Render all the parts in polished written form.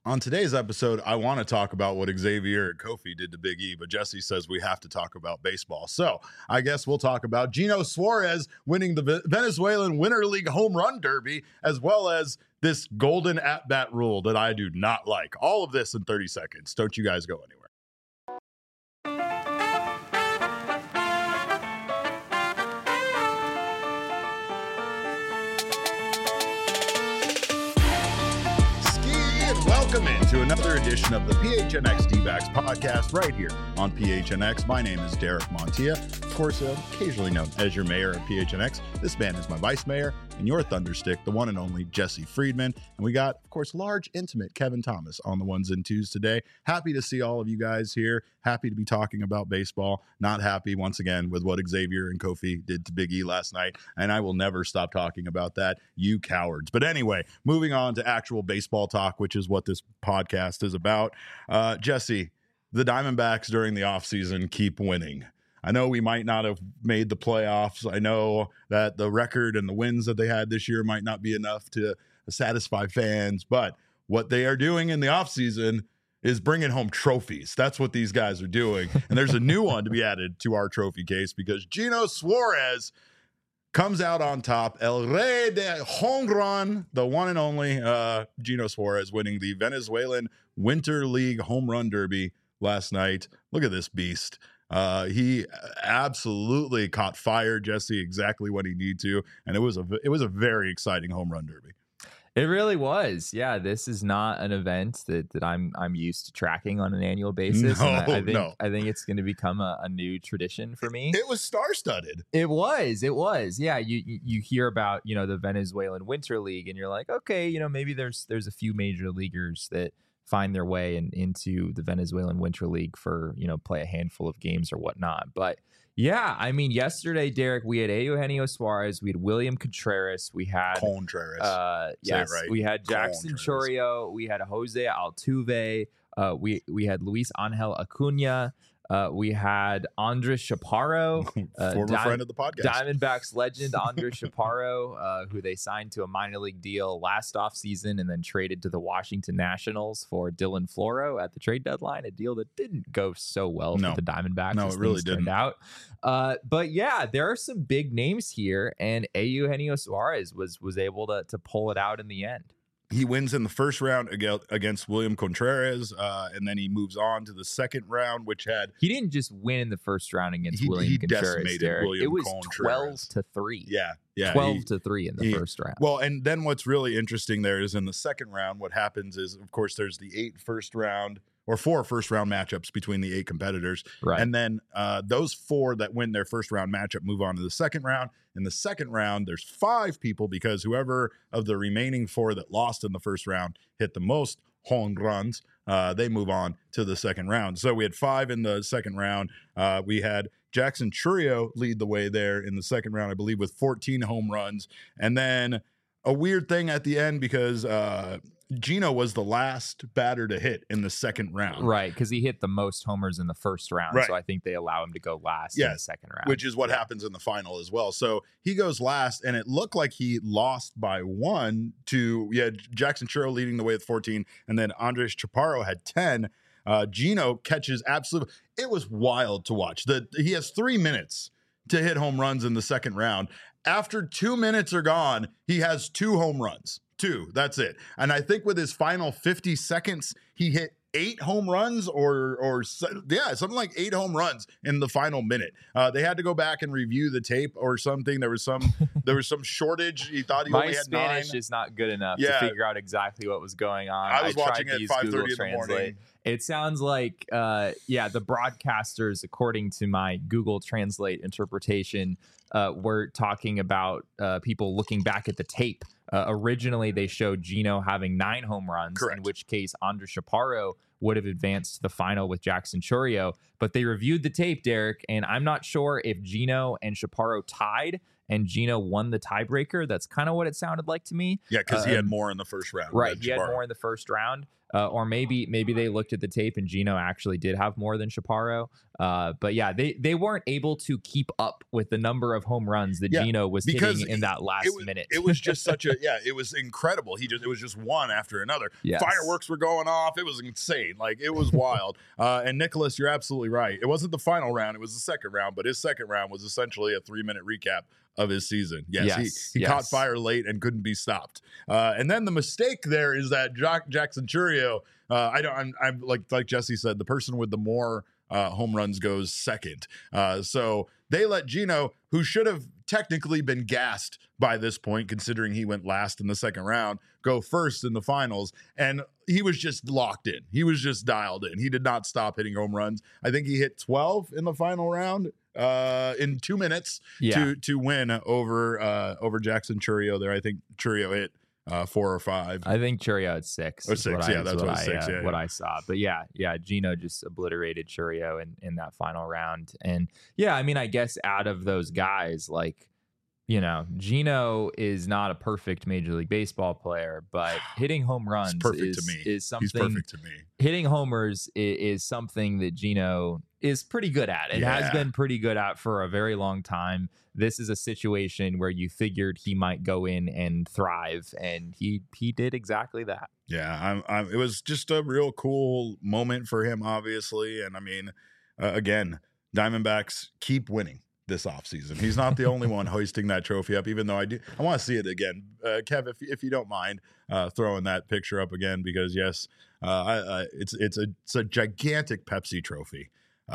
On today's episode, I want to talk about what Xavier and Kofi did to Big E, but Jesse says we have to talk about baseball. So I guess we'll talk about Gino Suarez winning the Venezuelan Winter League Home Run Derby, as well as this golden at-bat rule that I do not like. All of this in 30 seconds. Don't you guys go anywhere. Welcome into another edition of the PHNX D-backs podcast right here on PHNX. My name is Derek Montilla, of course, occasionally known as your mayor of PHNX. This man is my vice mayor and your thunderstick, the one and only Jesse Friedman. And we got, of course, large, intimate Kevin Thomas on the ones and twos today. Happy to see all of you guys here. Happy to be talking about baseball. Not happy, once again, with what Xavier and Kofi did to Big E last night. And I will never stop talking about that, you cowards. But anyway, moving on to actual baseball talk, which is what this podcast is about. Jesse, the Diamondbacks during the offseason keep winning. I know we might not have made the playoffs. I know that the record and the wins that they had this year might not be enough to satisfy fans, but what they are doing in the offseason is bringing home trophies. That's what these guys are doing. And there's a new one to be added to our trophy case because Gino Suarez comes out on top. El Rey de Home Run, the one and only Gino Suarez winning the Venezuelan Winter League Home Run Derby last night. Look at this beast. He absolutely caught fire, Jesse, exactly what he needed to. And it was a very exciting home run derby. It really was. Yeah, this is not an event that I'm used to tracking on an annual basis. No, I think it's going to become a new tradition for me. It was star-studded. It was. Yeah, you hear about, the Venezuelan Winter League and you're like, okay, maybe there's a few major leaguers that find their way into the Venezuelan Winter League for, play a handful of games or whatnot. But yeah, I mean, yesterday, Derek, we had Eugenio Suarez, we had William Contreras, we had Contreras. Yes, right. We had Jackson Chourio, we had Jose Altuve, we had Luis Angel Acuna. We had Andres Chaparro, former friend of the podcast, Diamondbacks legend Andres Chaparro, who they signed to a minor league deal last offseason and then traded to the Washington Nationals for Dylan Floro at the trade deadline, a deal that didn't go so well for the Diamondbacks. No, it really didn't. Out. But yeah, there are some big names here, and Eugenio Suarez was able to pull it out in the end. He wins in the first round against William Contreras, and then he moves on to the second round, which had... He didn't just win in the first round against William Contreras. Decimated William It was Contreras. 12-3. Yeah. 12-3 in the first round. Well, and then what's really interesting there is in the second round, what happens is, of course, there's the 4 first round matchups between the 8 competitors. Right. And then those 4 that win their first round matchup move on to the second round. In the second round, there's 5 people because whoever of the remaining 4 that lost in the first round hit the most home runs, they move on to the second round. So we had 5 in the second round. We had Jackson Chourio lead the way there in the second round, I believe, with 14 home runs. And then a weird thing at the end because Gino was the last batter to hit in the second round. Right, because he hit the most homers in the first round. Right. So I think they allow him to go last in the second round. Which is what happens in the final as well. So he goes last, and it looked like he lost by 1 to Jackson Chourio leading the way with 14, and then Andres Chaparro had 10. Gino catches absolutely. It was wild to watch. He has 3 minutes to hit home runs in the second round. After 2 minutes are gone, he has 2 home runs. 2, that's it. And I think with his final 50 seconds, he hit 8 home runs or something like 8 home runs in the final minute. They had to go back and review the tape or something. There was some shortage. He thought he only had 9. My Spanish is not good enough to figure out exactly what was going on. I was watching at 5:30 in the morning. It sounds like, the broadcasters, according to my Google Translate interpretation, were talking about people looking back at the tape. Originally, they showed Gino having 9 home runs, correct, in which case Andres Chaparro would have advanced to the final with Jackson Chourio. But they reviewed the tape, Derek, and I'm not sure if Gino and Chaparro tied and Gino won the tiebreaker. That's kind of what it sounded like to me. Yeah, because he had more in the first round. Right, he had more in the first round. or maybe they looked at the tape and Gino actually did have more than Chaparro. But yeah, they weren't able to keep up with the number of home runs that Gino was hitting in that last minute. It was just such a it was incredible. It was just one after another. Yes. Fireworks were going off. It was insane. Like, it was wild. And Nicholas, you're absolutely right. It wasn't the final round. It was the second round, but his second round was essentially a 3-minute recap of his season. Yes, he caught fire late and couldn't be stopped. And then the mistake there is that Jackson Chourio, I'm like Jesse said, the person with the more home runs goes second. So they let Gino, who should have technically been gassed by this point, considering he went last in the second round, go first in the finals. And he was just locked in. He was just dialed in. He did not stop hitting home runs. I think he hit 12 in the final round in 2 minutes to win over Jackson Chourio there. I think Chourio hit 4 or 5. I think Chourio at 6. Or 6, that's what I saw. But yeah, Gino just obliterated Chourio in that final round. And yeah, I mean, I guess out of those guys, like, you know, Gino is not a perfect Major League Baseball player, but hitting home runs is something. He's perfect to me. Hitting homers is something that Gino is pretty good at. It has been pretty good at for a very long time. This is a situation where you figured he might go in and thrive, and he did exactly that. Yeah, it was just a real cool moment for him, obviously. And I mean, again, Diamondbacks keep winning this offseason. He's not the only one hoisting that trophy up, even though I want to see it again. Kev, if you don't mind throwing that picture up again, because yes, it's a gigantic Pepsi trophy.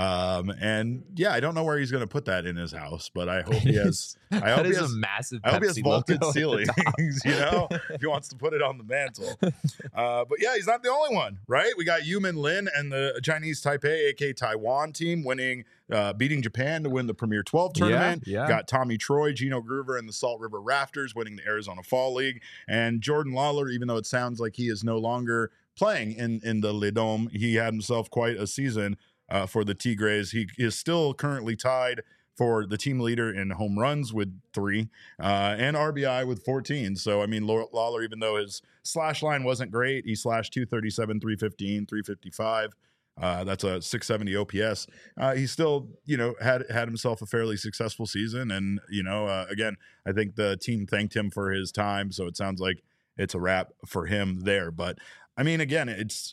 And yeah, I don't know where he's going to put that in his house, but I hope he has. I hope he has a massive. I hope he has vaulted ceilings. You know, if he wants to put it on the mantle. But yeah, he's not the only one, right? We got Yumin Lin and the Chinese Taipei, aka Taiwan team, beating Japan to win the Premier 12 tournament. Yeah. Got Tommy Troy, Gino Groover, and the Salt River Rafters winning the Arizona Fall League, and Jordan Lawler. Even though it sounds like he is no longer playing in the Le Dome, he had himself quite a season. For the Tigres. He is still currently tied for the team leader in home runs with 3 and RBI with 14. So, I mean, Lawler, even though his slash line wasn't great, he slashed 237, 315, 355. That's a 670 OPS. He still, had himself a fairly successful season. And, again, I think the team thanked him for his time. So it sounds like it's a wrap for him there. But, I mean, again,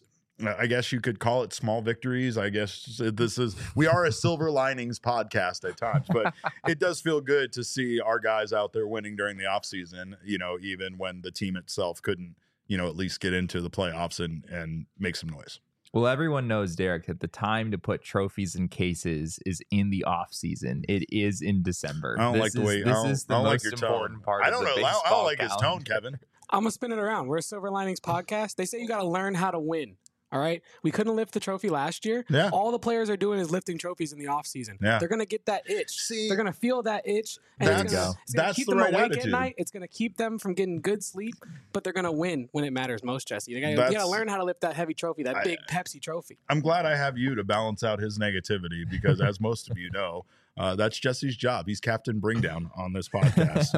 I guess you could call it small victories. I guess we are a silver linings podcast at times, but it does feel good to see our guys out there winning during the offseason, even when the team itself couldn't, at least get into the playoffs and make some noise. Well, everyone knows, Derek, that the time to put trophies in cases is in the off season. It is in December. I don't like the way this is the most important part. I don't know. I don't like his tone, Kevin. I'm gonna spin it around. We're a Silver Linings podcast. They say you got to learn how to win. All right. We couldn't lift the trophy last year. Yeah. All the players are doing is lifting trophies in the offseason. Yeah. They're going to get that itch. They're going to feel that itch. And it's going to keep them awake at night. It's going to keep them from getting good sleep, but they're going to win when it matters most, Jesse. You got to learn how to lift that heavy trophy, that big Pepsi trophy. I'm glad I have you to balance out his negativity because, as most of you know, that's Jesse's job. He's Captain Bringdown on this podcast.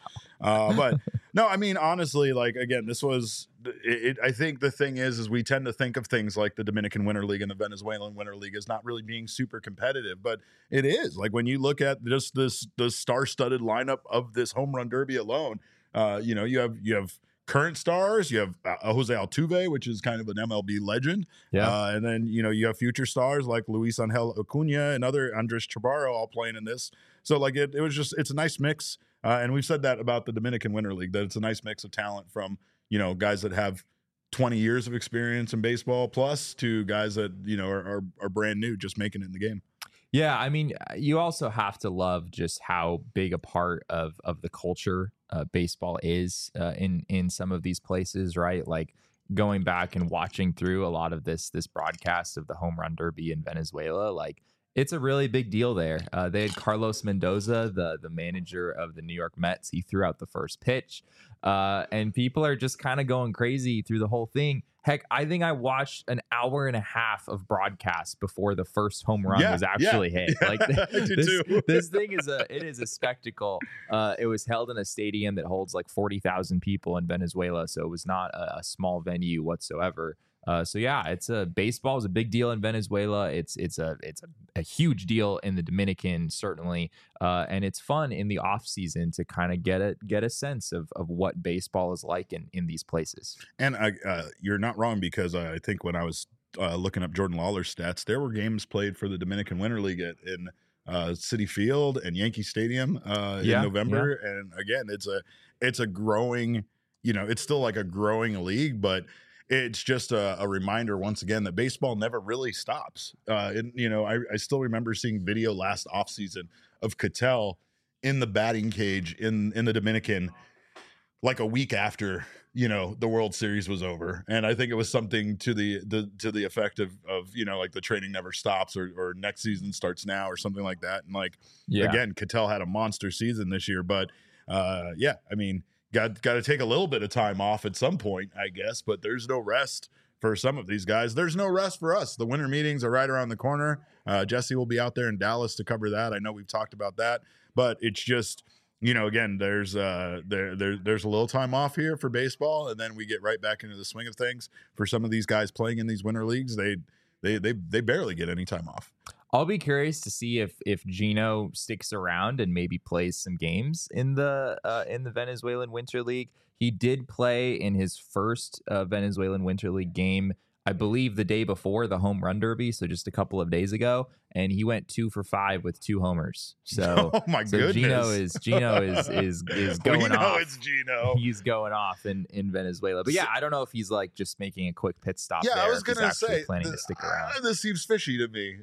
Wow. But no, I mean, honestly, like, again, this was it. I think the thing is we tend to think of things like the Dominican Winter League and the Venezuelan Winter League as not really being super competitive, but it is. Like, when you look at just the star-studded lineup of this home run derby alone, you have current stars. You have Jose Altuve, which is kind of an MLB legend. Yeah. And then, you have future stars like Luis Angel Acuna and other Andres Chavarro all playing in this. So, like, it's a nice mix. And we've said that about the Dominican Winter League, that it's a nice mix of talent from, guys that have 20 years of experience in baseball plus to guys that, are brand new, just making it in the game. Yeah, I mean, you also have to love just how big a part of the culture baseball is in some of these places, right? Like, going back and watching through a lot of this broadcast of the home run derby in Venezuela, like, it's a really big deal there. They had Carlos Mendoza, the manager of the New York Mets. He threw out the first pitch, and people are just kind of going crazy through the whole thing. Heck, I think I watched an hour and a half of broadcast before the first home run was actually hit. Like, this thing is a spectacle. It was held in a stadium that holds like 40,000 people in Venezuela, so it was not a small venue whatsoever. So yeah, baseball is a big deal in Venezuela. It's a huge deal in the Dominican, certainly, and it's fun in the off season to kind of get a sense of what baseball is like in these places. And you're not wrong, because I think when I was looking up Jordan Lawler's stats, there were games played for the Dominican Winter League in Citi Field and Yankee Stadium in November. Yeah. And again, it's a growing, it's still like a growing league, but it's just a reminder once again that baseball never really stops. And I still remember seeing video last offseason of Ketel in the batting cage in the Dominican, like a week after the World Series was over. And I think it was something to the effect of like the training never stops, or next season starts now, or something like that. And again, Ketel had a monster season this year, but I mean, got to take a little bit of time off at some point, I guess, but there's no rest for some of these guys. There's no rest for us. The winter meetings are right around the corner. Jesse will be out there in Dallas to cover that. I know we've talked about that, but it's just, again, there's a little time off here for baseball, and then we get right back into the swing of things. For some of these guys playing in these winter leagues, they barely get any time off. I'll be curious to see if Gino sticks around and maybe plays some games in the Venezuelan Winter League. He did play in his first Venezuelan Winter League game, I believe, the day before the Home Run Derby, so just a couple of days ago, and he went 2 for 5 with 2 homers. So, oh my goodness, Gino is going off. It's Gino. He's going off in Venezuela. But yeah, I don't know if he's like just making a quick pit stop. Yeah, there, I was gonna say planning to stick around. This seems fishy to me.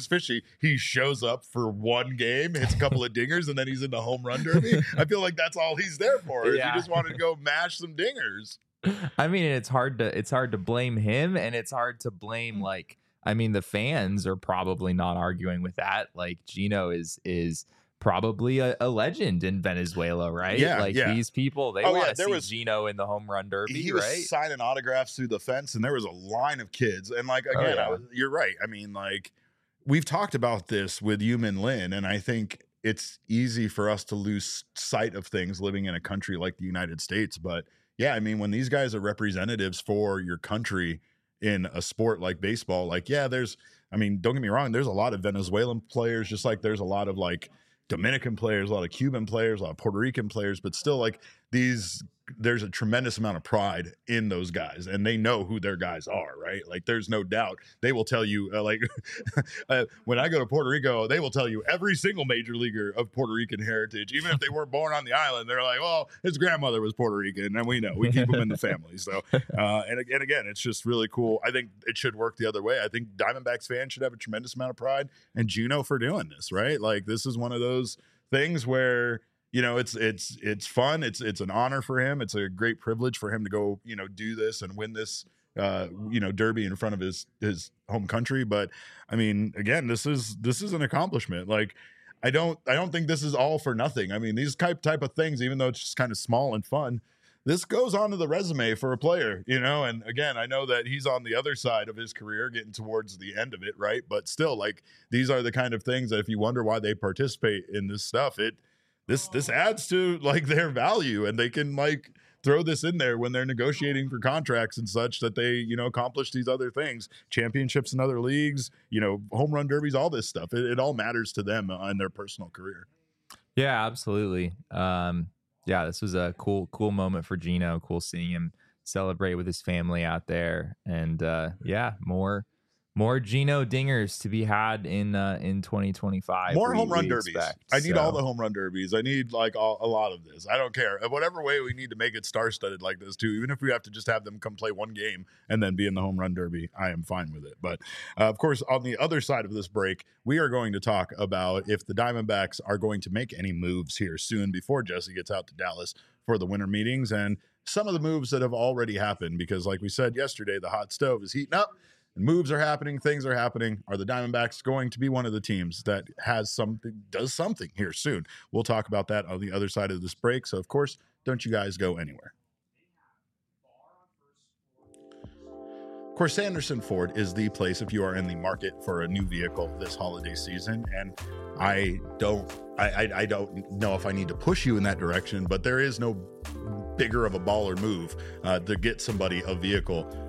He shows up for one game, hits a couple of dingers, and then he's in the Home Run Derby. I feel like that's all he's there for. Yeah. He just wanted to go mash some dingers. I mean, it's hard to blame him, and it's hard to blame the fans are probably not arguing with that. Like, Gino is probably a legend in Venezuela, right? Yeah, these people, they want to see Gino in the Home Run Derby. He was signing autographs through the fence, and there was a line of kids. And you're right. I mean, we've talked about this with Yumin Lin, and I think it's easy for us to lose sight of things living in a country like the United States, but yeah, I mean, when these guys are representatives for your country in a sport like baseball, don't get me wrong, there's a lot of Venezuelan players, just like there's a lot of Dominican players, a lot of Cuban players, a lot of Puerto Rican players, but still there's a tremendous amount of pride in those guys, and they know who their guys are, right? There's no doubt. They will tell you, when I go to Puerto Rico, they will tell you every single major leaguer of Puerto Rican heritage, even if they weren't born on the island. They're like, well, his grandmother was Puerto Rican, and we know. We keep them in the family. So, and again, it's just really cool. I think it should work the other way. I think Diamondbacks fans should have a tremendous amount of pride in Gino for doing this, right? This is one of those things where, it's fun. It's an honor for him. It's a great privilege for him to go, do this and win this, derby in front of his home country. But I mean, again, this is an accomplishment. I don't think this is all for nothing. I mean, these type of things, even though it's just kind of small and fun, this goes onto the resume for a player, and again, I know that he's on the other side of his career, getting towards the end of it. Right. But still, these are the kind of things that if you wonder why they participate in this stuff, this adds to their value, and they can throw this in there when they're negotiating for contracts and such, that they, accomplish these other things, championships in other leagues, home run derbies, all this stuff. It all matters to them in their personal career. Yeah, absolutely. This was a cool moment for Gino. Cool seeing him celebrate with his family out there. And more Gino dingers to be had in 2025. More home run derbies. I need all the home run derbies. I need a lot of this. I don't care. Whatever way we need to make it star-studded like this too, even if we have to just have them come play one game and then be in the home run derby, I am fine with it. But of course, on the other side of this break, we are going to talk about if the Diamondbacks are going to make any moves here soon before Jesse gets out to Dallas for the winter meetings, and some of the moves that have already happened, because like we said yesterday, the hot stove is heating up. Moves are happening. Things are happening. Are the Diamondbacks going to be one of the teams that does something here soon? We'll talk about that on the other side of this break. So, of course, don't you guys go anywhere. Of course, Sanderson Ford is the place if you are in the market for a new vehicle this holiday season. And I don't know if I need to push you in that direction, but there is no bigger of a baller move to get somebody a vehicle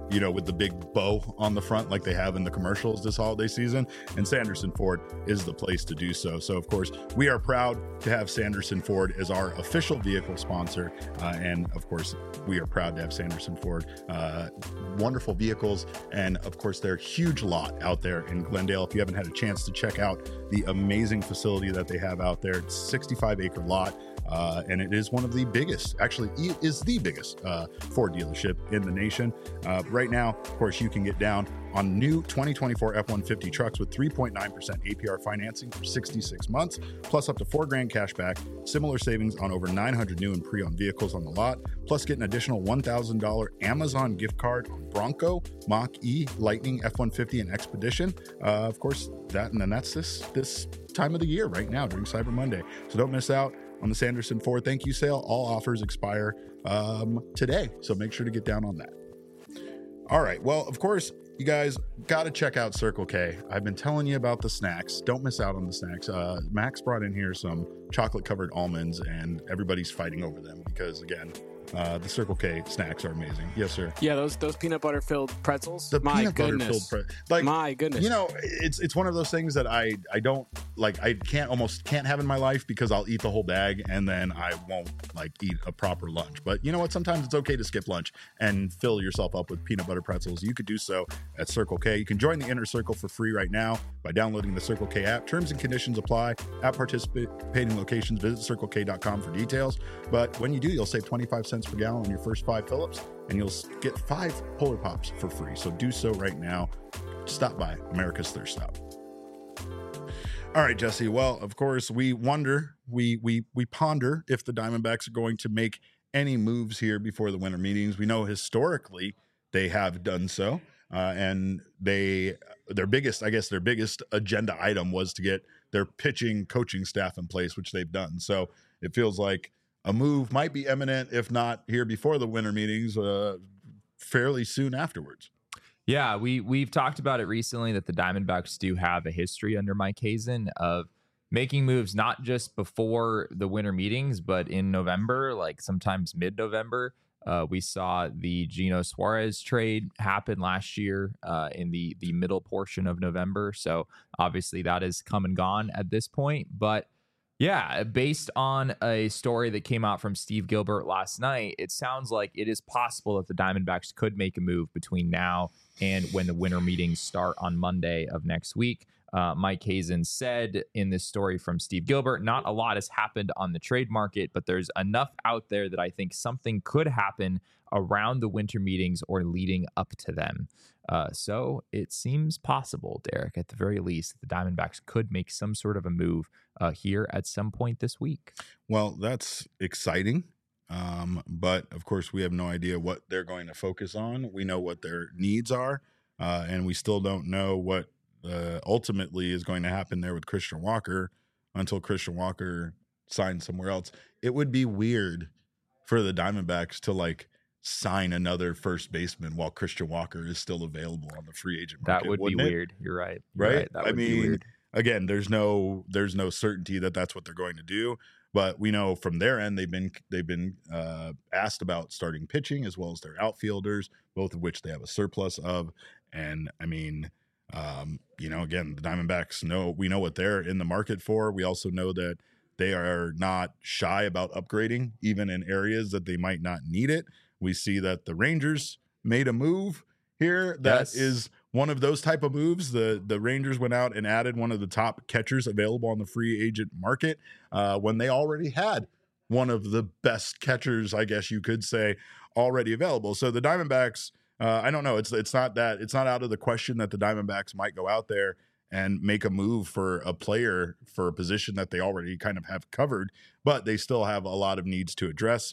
with the big bow on the front like they have in the commercials this holiday season. And Sanderson Ford is the place to do so. So, of course, we are proud to have Sanderson Ford as our official vehicle sponsor. And, of course, we are proud to have Sanderson Ford. Wonderful vehicles. And, of course, their huge lot out there in Glendale. If you haven't had a chance to check out the amazing facility that they have out there, it's a 65-acre lot. And it is one of the biggest, actually is the biggest Ford dealership in the nation. Right now, of course, you can get down on new 2024 F-150 trucks with 3.9% APR financing for 66 months, plus up to $4,000 cash back, similar savings on over 900 new and pre-owned vehicles on the lot, plus get an additional $1,000 Amazon gift card on Bronco, Mach-E, Lightning, F-150, and Expedition. Of course, that's this time of the year right now during Cyber Monday. So don't miss out on the Sanderson Ford thank you sale. All offers expire today, so make sure to get down on that. All right. Well, of course, you guys got to check out Circle K. I've been telling you about the snacks. Don't miss out on the snacks. Max brought in here some chocolate-covered almonds, and everybody's fighting over them because, again, the Circle K snacks are amazing. Yes, sir. Yeah, those peanut butter filled pretzels. The peanut butter filled my goodness. It's one of those things that I don't like. I can't have in my life because I'll eat the whole bag and then I won't eat a proper lunch. But you know what? Sometimes it's okay to skip lunch and fill yourself up with peanut butter pretzels. You could do so at Circle K. You can join the Inner Circle for free right now by downloading the Circle K app. Terms and conditions apply. At participating locations, visit CircleK.com for details. But when you do, you'll save 25 cents per gallon on your first 5 fill-ups, and you'll get 5 Polar Pops for free. So do so right now. Stop by America's Thirst Stop. All right, Jesse. Well, of course, we wonder, we ponder if the Diamondbacks are going to make any moves here before the winter meetings. We know historically they have done so, and their biggest agenda item was to get their pitching coaching staff in place, which they've done. So it feels like a move might be imminent, if not here before the winter meetings, fairly soon afterwards. Yeah, we've talked about it recently that the Diamondbacks do have a history under Mike Hazen of making moves not just before the winter meetings, but in November, like sometimes mid-November. We saw the Gino Suarez trade happen last year in the middle portion of November. So obviously that has come and gone at this point. But yeah, based on a story that came out from Steve Gilbert last night, it sounds like it is possible that the Diamondbacks could make a move between now and when the winter meetings start on Monday of next week. Mike Hazen said in this story from Steve Gilbert, not a lot has happened on the trade market, but there's enough out there that I think something could happen around the winter meetings or leading up to them. So it seems possible, Derek, at the very least, that the Diamondbacks could make some sort of a move here at some point this week. Well, that's exciting. But of course, we have no idea what they're going to focus on. We know what their needs are, and we still don't know what ultimately is going to happen there with Christian Walker until Christian Walker signs somewhere else. It would be weird for the Diamondbacks to sign another first baseman while Christian Walker is still available on the free agent market. That would be weird. You're right. Right? That would be weird. Again, there's no certainty that that's what they're going to do, but we know from their end they've been asked about starting pitching as well as their outfielders, both of which they have a surplus of. And I mean, again, the Diamondbacks we know what they're in the market for. We also know that they are not shy about upgrading, even in areas that they might not need it. We see that the Rangers made a move here that is one of those type of moves. The Rangers went out and added one of the top catchers available on the free agent market when they already had one of the best catchers, I guess you could say, already available. So the Diamondbacks, I don't know. It's not out of the question that the Diamondbacks might go out there and make a move for a player for a position that they already kind of have covered, but they still have a lot of needs to address.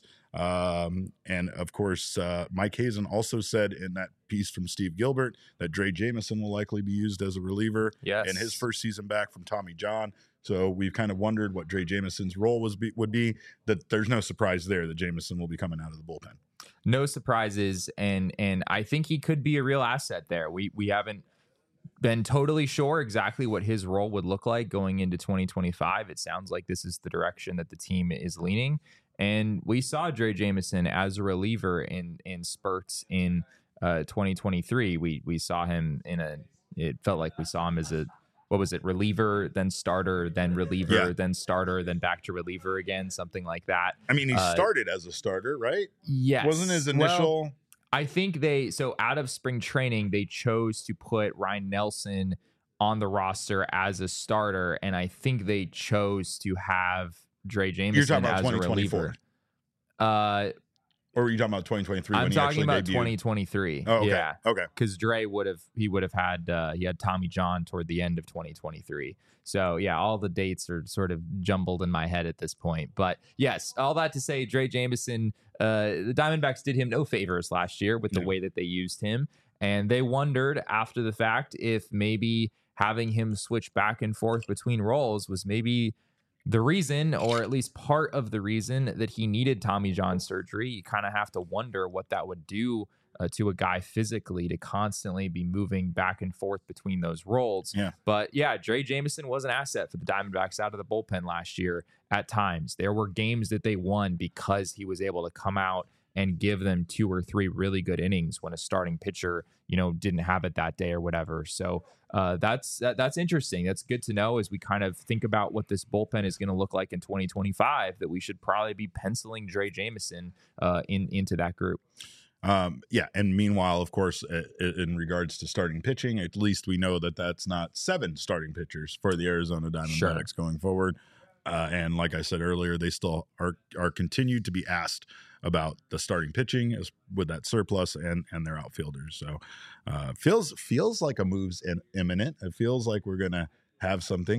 And of course, Mike Hazen also said in that piece from Steve Gilbert that Drey Jameson will likely be used as a reliever in his first season back from Tommy John. So we've kind of wondered what Drey Jameson's role would be. That there's no surprise there that Jameson will be coming out of the bullpen. No surprises, and I think he could be a real asset there. We haven't been totally sure exactly what his role would look like going into 2025. It sounds like this is the direction that the team is leaning. And we saw Drey Jameson as a reliever in spurts in 2023, we saw him it felt like we saw him as a, what was it, reliever, then starter, then reliever, then starter, then back to reliever again, something like that. I mean, he started as a starter, right? Yes. Wasn't his initial... Well, I think so out of spring training, they chose to put Ryan Nelson on the roster as a starter, and I think they chose to have Drey Jameson You're talking about as 2024. A reliever. Or were you talking about 2023? I'm talking about 2023. Oh, okay. Yeah. Okay. Because Drey would have had he had Tommy John toward the end of 2023. So yeah, all the dates are sort of jumbled in my head at this point. But yes, all that to say, Drey Jameson, the Diamondbacks did him no favors last year with the way that they used him, and they wondered after the fact if maybe having him switch back and forth between roles was maybe the reason, or at least part of the reason, that he needed Tommy John surgery. You kind of have to wonder what that would do to a guy physically to constantly be moving back and forth between those roles. Yeah. But yeah, Drey Jameson was an asset for the Diamondbacks out of the bullpen last year at times. There were games that they won because he was able to come out and give them 2 or 3 really good innings when a starting pitcher, didn't have it that day or whatever. So that's interesting. That's good to know as we kind of think about what this bullpen is going to look like in 2025, that we should probably be penciling Drey Jameson into that group. And meanwhile, of course, in regards to starting pitching, at least we know that that's not 7 starting pitchers for the Arizona Diamondbacks going forward. And like I said earlier, they still are continued to be asked about the starting pitching with that surplus and their outfielders. So feels like a move's imminent. It feels like we're gonna have something.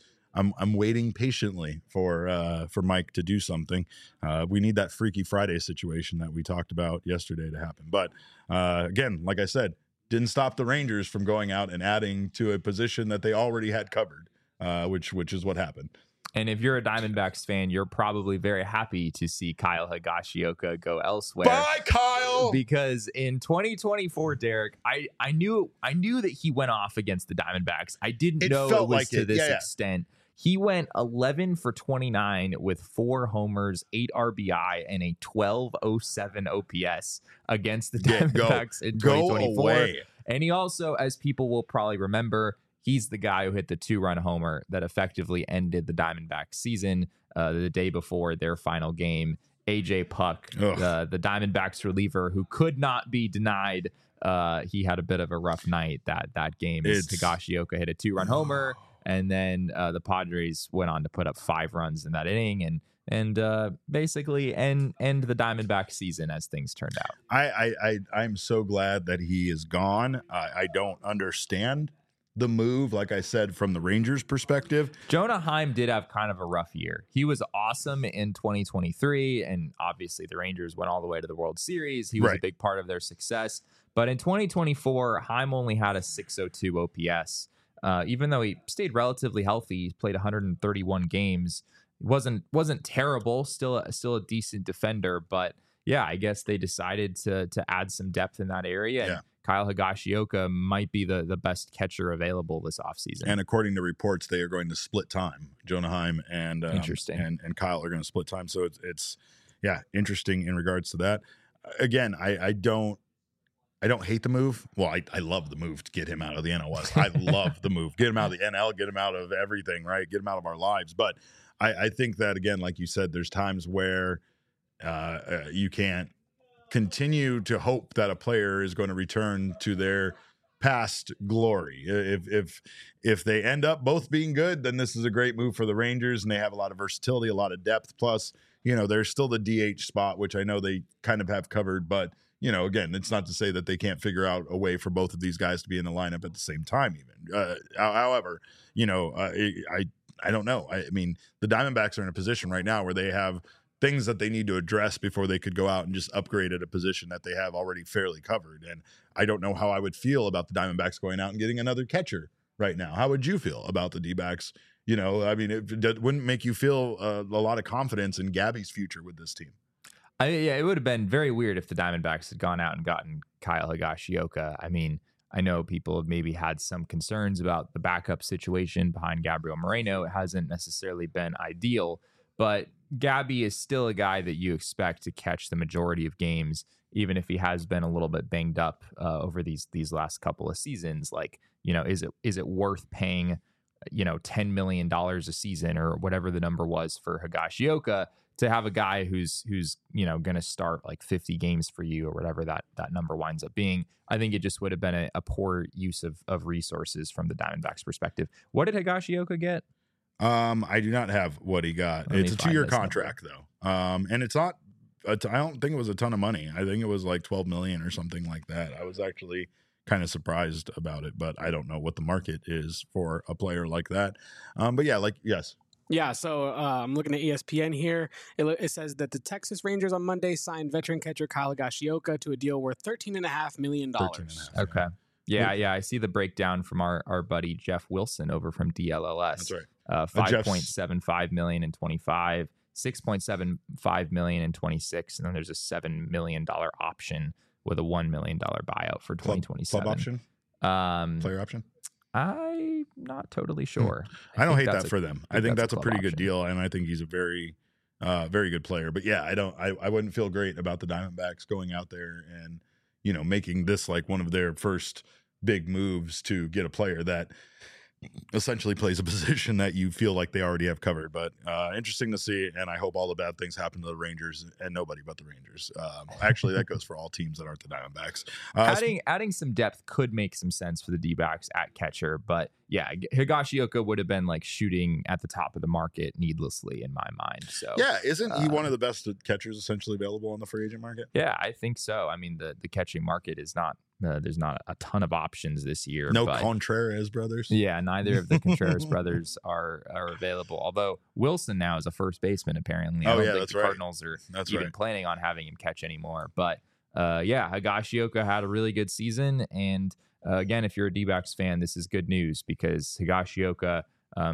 I'm waiting patiently for Mike to do something. We need that Freaky Friday situation that we talked about yesterday to happen. But again, like I said, didn't stop the Rangers from going out and adding to a position that they already had covered, which is what happened. And if you're a Diamondbacks fan, you're probably very happy to see Kyle Higashioka go elsewhere. Bye, Kyle! Because in 2024, Derek, I knew that he went off against the Diamondbacks. I didn't know it was like to this extent. He went 11 for 29 with 4 homers, 8 RBI, and a 1207 OPS against the Diamondbacks in 2024. And he also, as people will probably remember, he's the guy who hit the 2-run homer that effectively ended the Diamondbacks season the day before their final game. AJ Puk, the Diamondbacks reliever who could not be denied. He had a bit of a rough night that game. Higashioka hit a 2-run homer, and then the Padres went on to put up 5 runs in that inning and basically end the Diamondback season as things turned out. I'm so glad that he is gone. I don't understand the move, like I said, from the Rangers' perspective. Jonah Heim did have kind of a rough year. He was awesome in 2023, and obviously the Rangers went all the way to the World Series. He was a big part of their success. But in 2024, Heim only had a 602 OPS. Even though he stayed relatively healthy, he played 131 games. It wasn't terrible, still a decent defender, but yeah, I guess they decided to add some depth in that area. And Kyle Higashioka might be the best catcher available this offseason. And according to reports, they are going to split time. Jonah Heim and and Kyle are going to split time. So it's interesting in regards to that. Again, I don't hate the move. Well, I love the move to get him out of the NLS. I love the move. Get him out of the NL, get him out of everything, right? Get him out of our lives. But I think that, again, like you said, there's times where you can't continue to hope that a player is going to return to their past glory. If they end up both being good, then this is a great move for the Rangers, and they have a lot of versatility, a lot of depth. Plus, there's still the DH spot, which I know they kind of have covered, but again, it's not to say that they can't figure out a way for both of these guys to be in the lineup at the same time even. However, I don't know. I mean, the Diamondbacks are in a position right now where they have things that they need to address before they could go out and just upgrade at a position that they have already fairly covered. And I don't know how I would feel about the Diamondbacks going out and getting another catcher right now. How would you feel about the D-backs? I mean, it wouldn't make you feel a lot of confidence in Gabby's future with this team. It would have been very weird if the Diamondbacks had gone out and gotten Kyle Higashioka. I mean, I know people have maybe had some concerns about the backup situation behind Gabriel Moreno. It hasn't necessarily been ideal. But Gabby is still a guy that you expect to catch the majority of games, even if he has been a little bit banged up over these last couple of seasons. Like, is it worth paying, $10 million a season or whatever the number was for Higashioka to have a guy who's going to start like 50 games for you or whatever that number winds up being? I think it just would have been a poor use of resources from the Diamondbacks perspective. What did Higashioka get? I do not have what he got. It's a 2-year contract though. And it's not, I don't think it was a ton of money. I think it was like 12 million or something like that. I was actually kind of surprised about it, but I don't know what the market is for a player like that. But yeah, yes. Yeah, so I'm looking at ESPN here. It says that the Texas Rangers on Monday signed veteran catcher Kyle Higashioka to a deal worth $13.5 million. Okay. Yeah, I see the breakdown from our buddy Jeff Wilson over from DLLS. That's right. 5.75 million in 25, 6.75 million in 26, and then there's a $7 million option with a $1 million buyout for 2027. Club option? Player option? I'm not totally sure. I don't hate that for them. I think that's a pretty good deal, and I think he's a very, very good player. But yeah, I wouldn't feel great about the Diamondbacks going out there and making this like one of their first big moves to get a player that essentially plays a position that you feel like they already have covered. But interesting to see, and I hope all the bad things happen to the Rangers and nobody but the Rangers. Actually, that goes for all teams that aren't the Diamondbacks. Adding some depth could make some sense for the D-backs at catcher, but yeah, Higashioka would have been like shooting at the top of the market needlessly in my mind. So yeah, isn't he one of the best catchers essentially available on the free agent market? Yeah, I think so. I mean, the catching market is not there's not a ton of options this year. No Contreras brothers. Yeah, neither of the Contreras brothers are available. Although Wilson now is a first baseman apparently. I don't think the Cardinals are even planning on having him catch anymore. But Higashioka had a really good season, and again, if you're a D-backs fan, this is good news because Higashioka,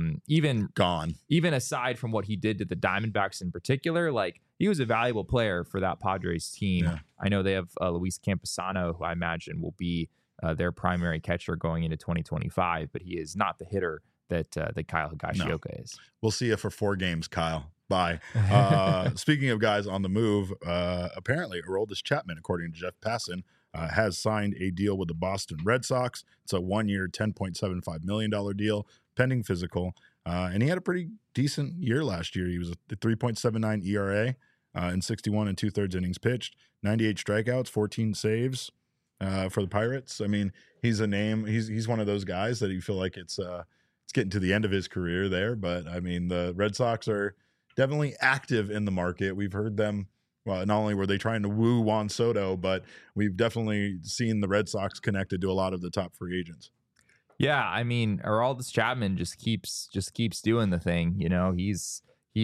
even aside from what he did to the Diamondbacks in particular, like he was a valuable player for that Padres team. Yeah. I know they have Luis Camposano, who I imagine will be their primary catcher going into 2025, but he is not the hitter that Kyle Higashioka is. We'll see you for 4 games, Kyle. Bye. Speaking of guys on the move, apparently Aroldis Chapman, according to Jeff Passan, has signed a deal with the Boston Red Sox. It's a 1-year, $10.75 million deal, pending physical. And he had a pretty decent year last year. He was a 3.79 ERA in 61 2/3 innings pitched, 98 strikeouts, 14 saves for the Pirates. I mean, he's a name. He's one of those guys that you feel like it's getting to the end of his career there. But I mean, the Red Sox are definitely active in the market. We've heard them. Well, not only were they trying to woo Juan Soto, but we've definitely seen the Red Sox connected to a lot of the top free agents. Yeah, I mean, Aroldis Chapman just keeps doing the thing. He's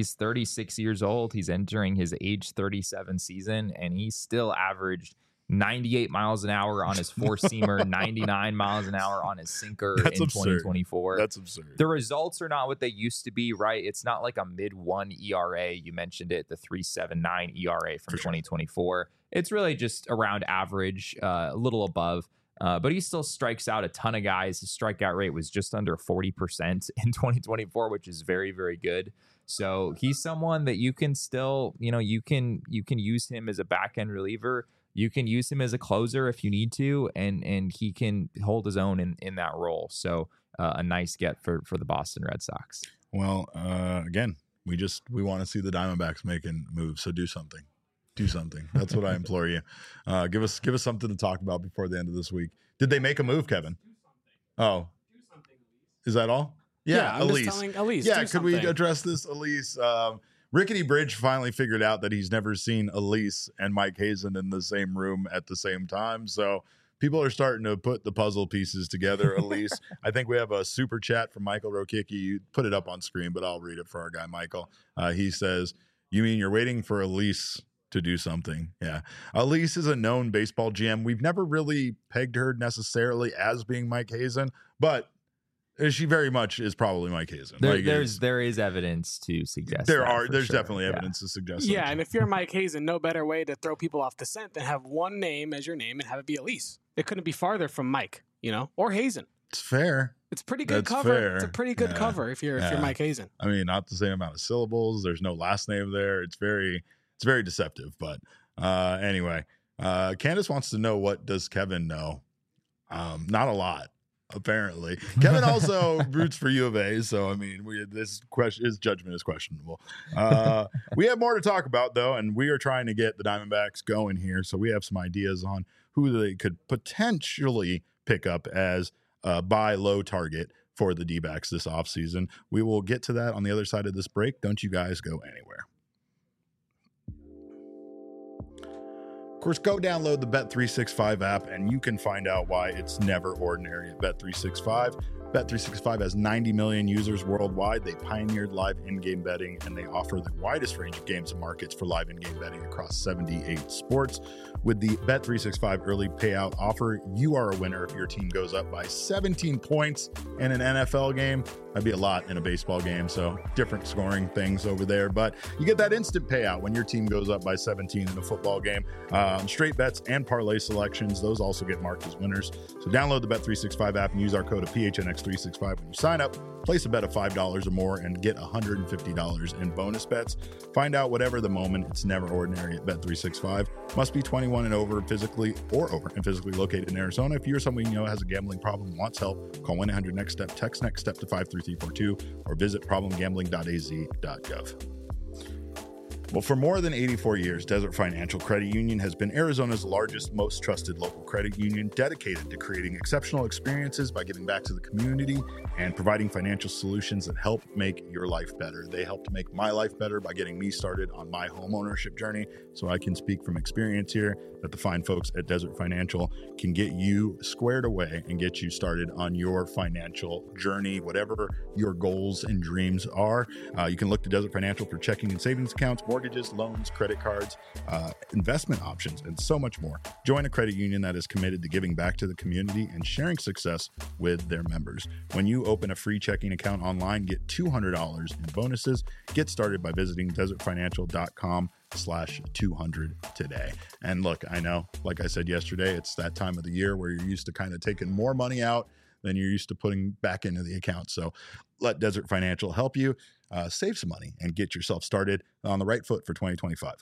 36 years old. He's entering his age 37 season, and he's still averaged 98 miles an hour on his four-seamer, 99 miles an hour on his sinker in 2024. That's absurd. The results are not what they used to be, right? It's not like a mid-1 ERA. You mentioned it, the 3.79 ERA from 2024. It's really just around average, a little above. But he still strikes out a ton of guys. His strikeout rate was just under 40% in 2024, which is very, very good. So he's someone that you can still, you can use him as a back-end reliever. You can use him as a closer if you need to, and he can hold his own in that role. So a nice get for the Boston Red Sox. Well, again, we want to see the Diamondbacks making moves. So do something. Do something. That's what I implore you. Give us something to talk about before the end of this week. Did they make a move, Kevin? Oh, is that all? Yeah, Elise. Yeah, could we address this, Elise? Rickety Bridge finally figured out that he's never seen Elise and Mike Hazen in the same room at the same time. So people are starting to put the puzzle pieces together. Elise, I think we have a super chat from Michael Rokicki. You put it up on screen, but I'll read it for our guy Michael. He says, "You mean you're waiting for Elise to do something?" Yeah. Elise is a known baseball GM. We've never really pegged her necessarily as being Mike Hazen, but she very much is probably Mike Hazen. There is evidence to suggest there's definitely evidence to suggest. Yeah, and if you're Mike Hazen, no better way to throw people off the scent than have one name as your name and have it be Elise. It couldn't be farther from Mike, or Hazen. It's fair. It's pretty good cover. Fair. It's a pretty good cover if you're Mike Hazen. I mean, not the same amount of syllables. There's no last name there. It's very deceptive. But anyway, Candace wants to know, what does Kevin know? Not a lot, apparently. Kevin also roots for U of A, so I mean, his judgment is questionable. We have more to talk about though, and we are trying to get the Diamondbacks going here. So we have some ideas on who they could potentially pick up as buy low target for the D-backs this offseason. We will get to that on the other side of this break. Don't you guys go anywhere. Of course, go download the Bet365 app and you can find out why it's never ordinary at Bet365. Bet365 has 90 million users worldwide. They pioneered live in-game betting, and they offer the widest range of games and markets for live in-game betting across 78 sports. With the Bet365 early payout offer, you are a winner if your team goes up by 17 points in an NFL game. That'd be a lot in a baseball game, so different scoring things over there. But you get that instant payout when your team goes up by 17 in a football game. Straight bets and parlay selections, those also get marked as winners. So download the Bet365 app and use our code of PHNX365 when you sign up. Place a bet of $5 or more and get $150 in bonus bets. Find out whatever the moment. It's never ordinary at Bet365. Must be 21 and over, physically located in Arizona. If you're someone you know has a gambling problem, wants help, call 1-800-NEXT-STEP, text NEXT STEP to 53342, or visit problemgambling.az.gov. Well, for more than 84 years, Desert Financial Credit Union has been Arizona's largest, most trusted local credit union, dedicated to creating exceptional experiences by giving back to the community and providing financial solutions that help make your life better. They helped make my life better by getting me started on my home ownership journey. So I can speak from experience here that the fine folks at Desert Financial can get you squared away and get you started on your financial journey, whatever your goals and dreams are. You can look to Desert Financial for checking and savings accounts, mortgages, loans, credit cards, investment options, and so much more. Join a credit union that is committed to giving back to the community and sharing success with their members. When you open a free checking account online, get $200 in bonuses. Get started by visiting desertfinancial.com/200 today. And look, I know, like I said yesterday, it's that time of the year where you're used to kind of taking more money out than you're used to putting back into the account. So let Desert Financial help you save some money and get yourself started on the right foot for 2025.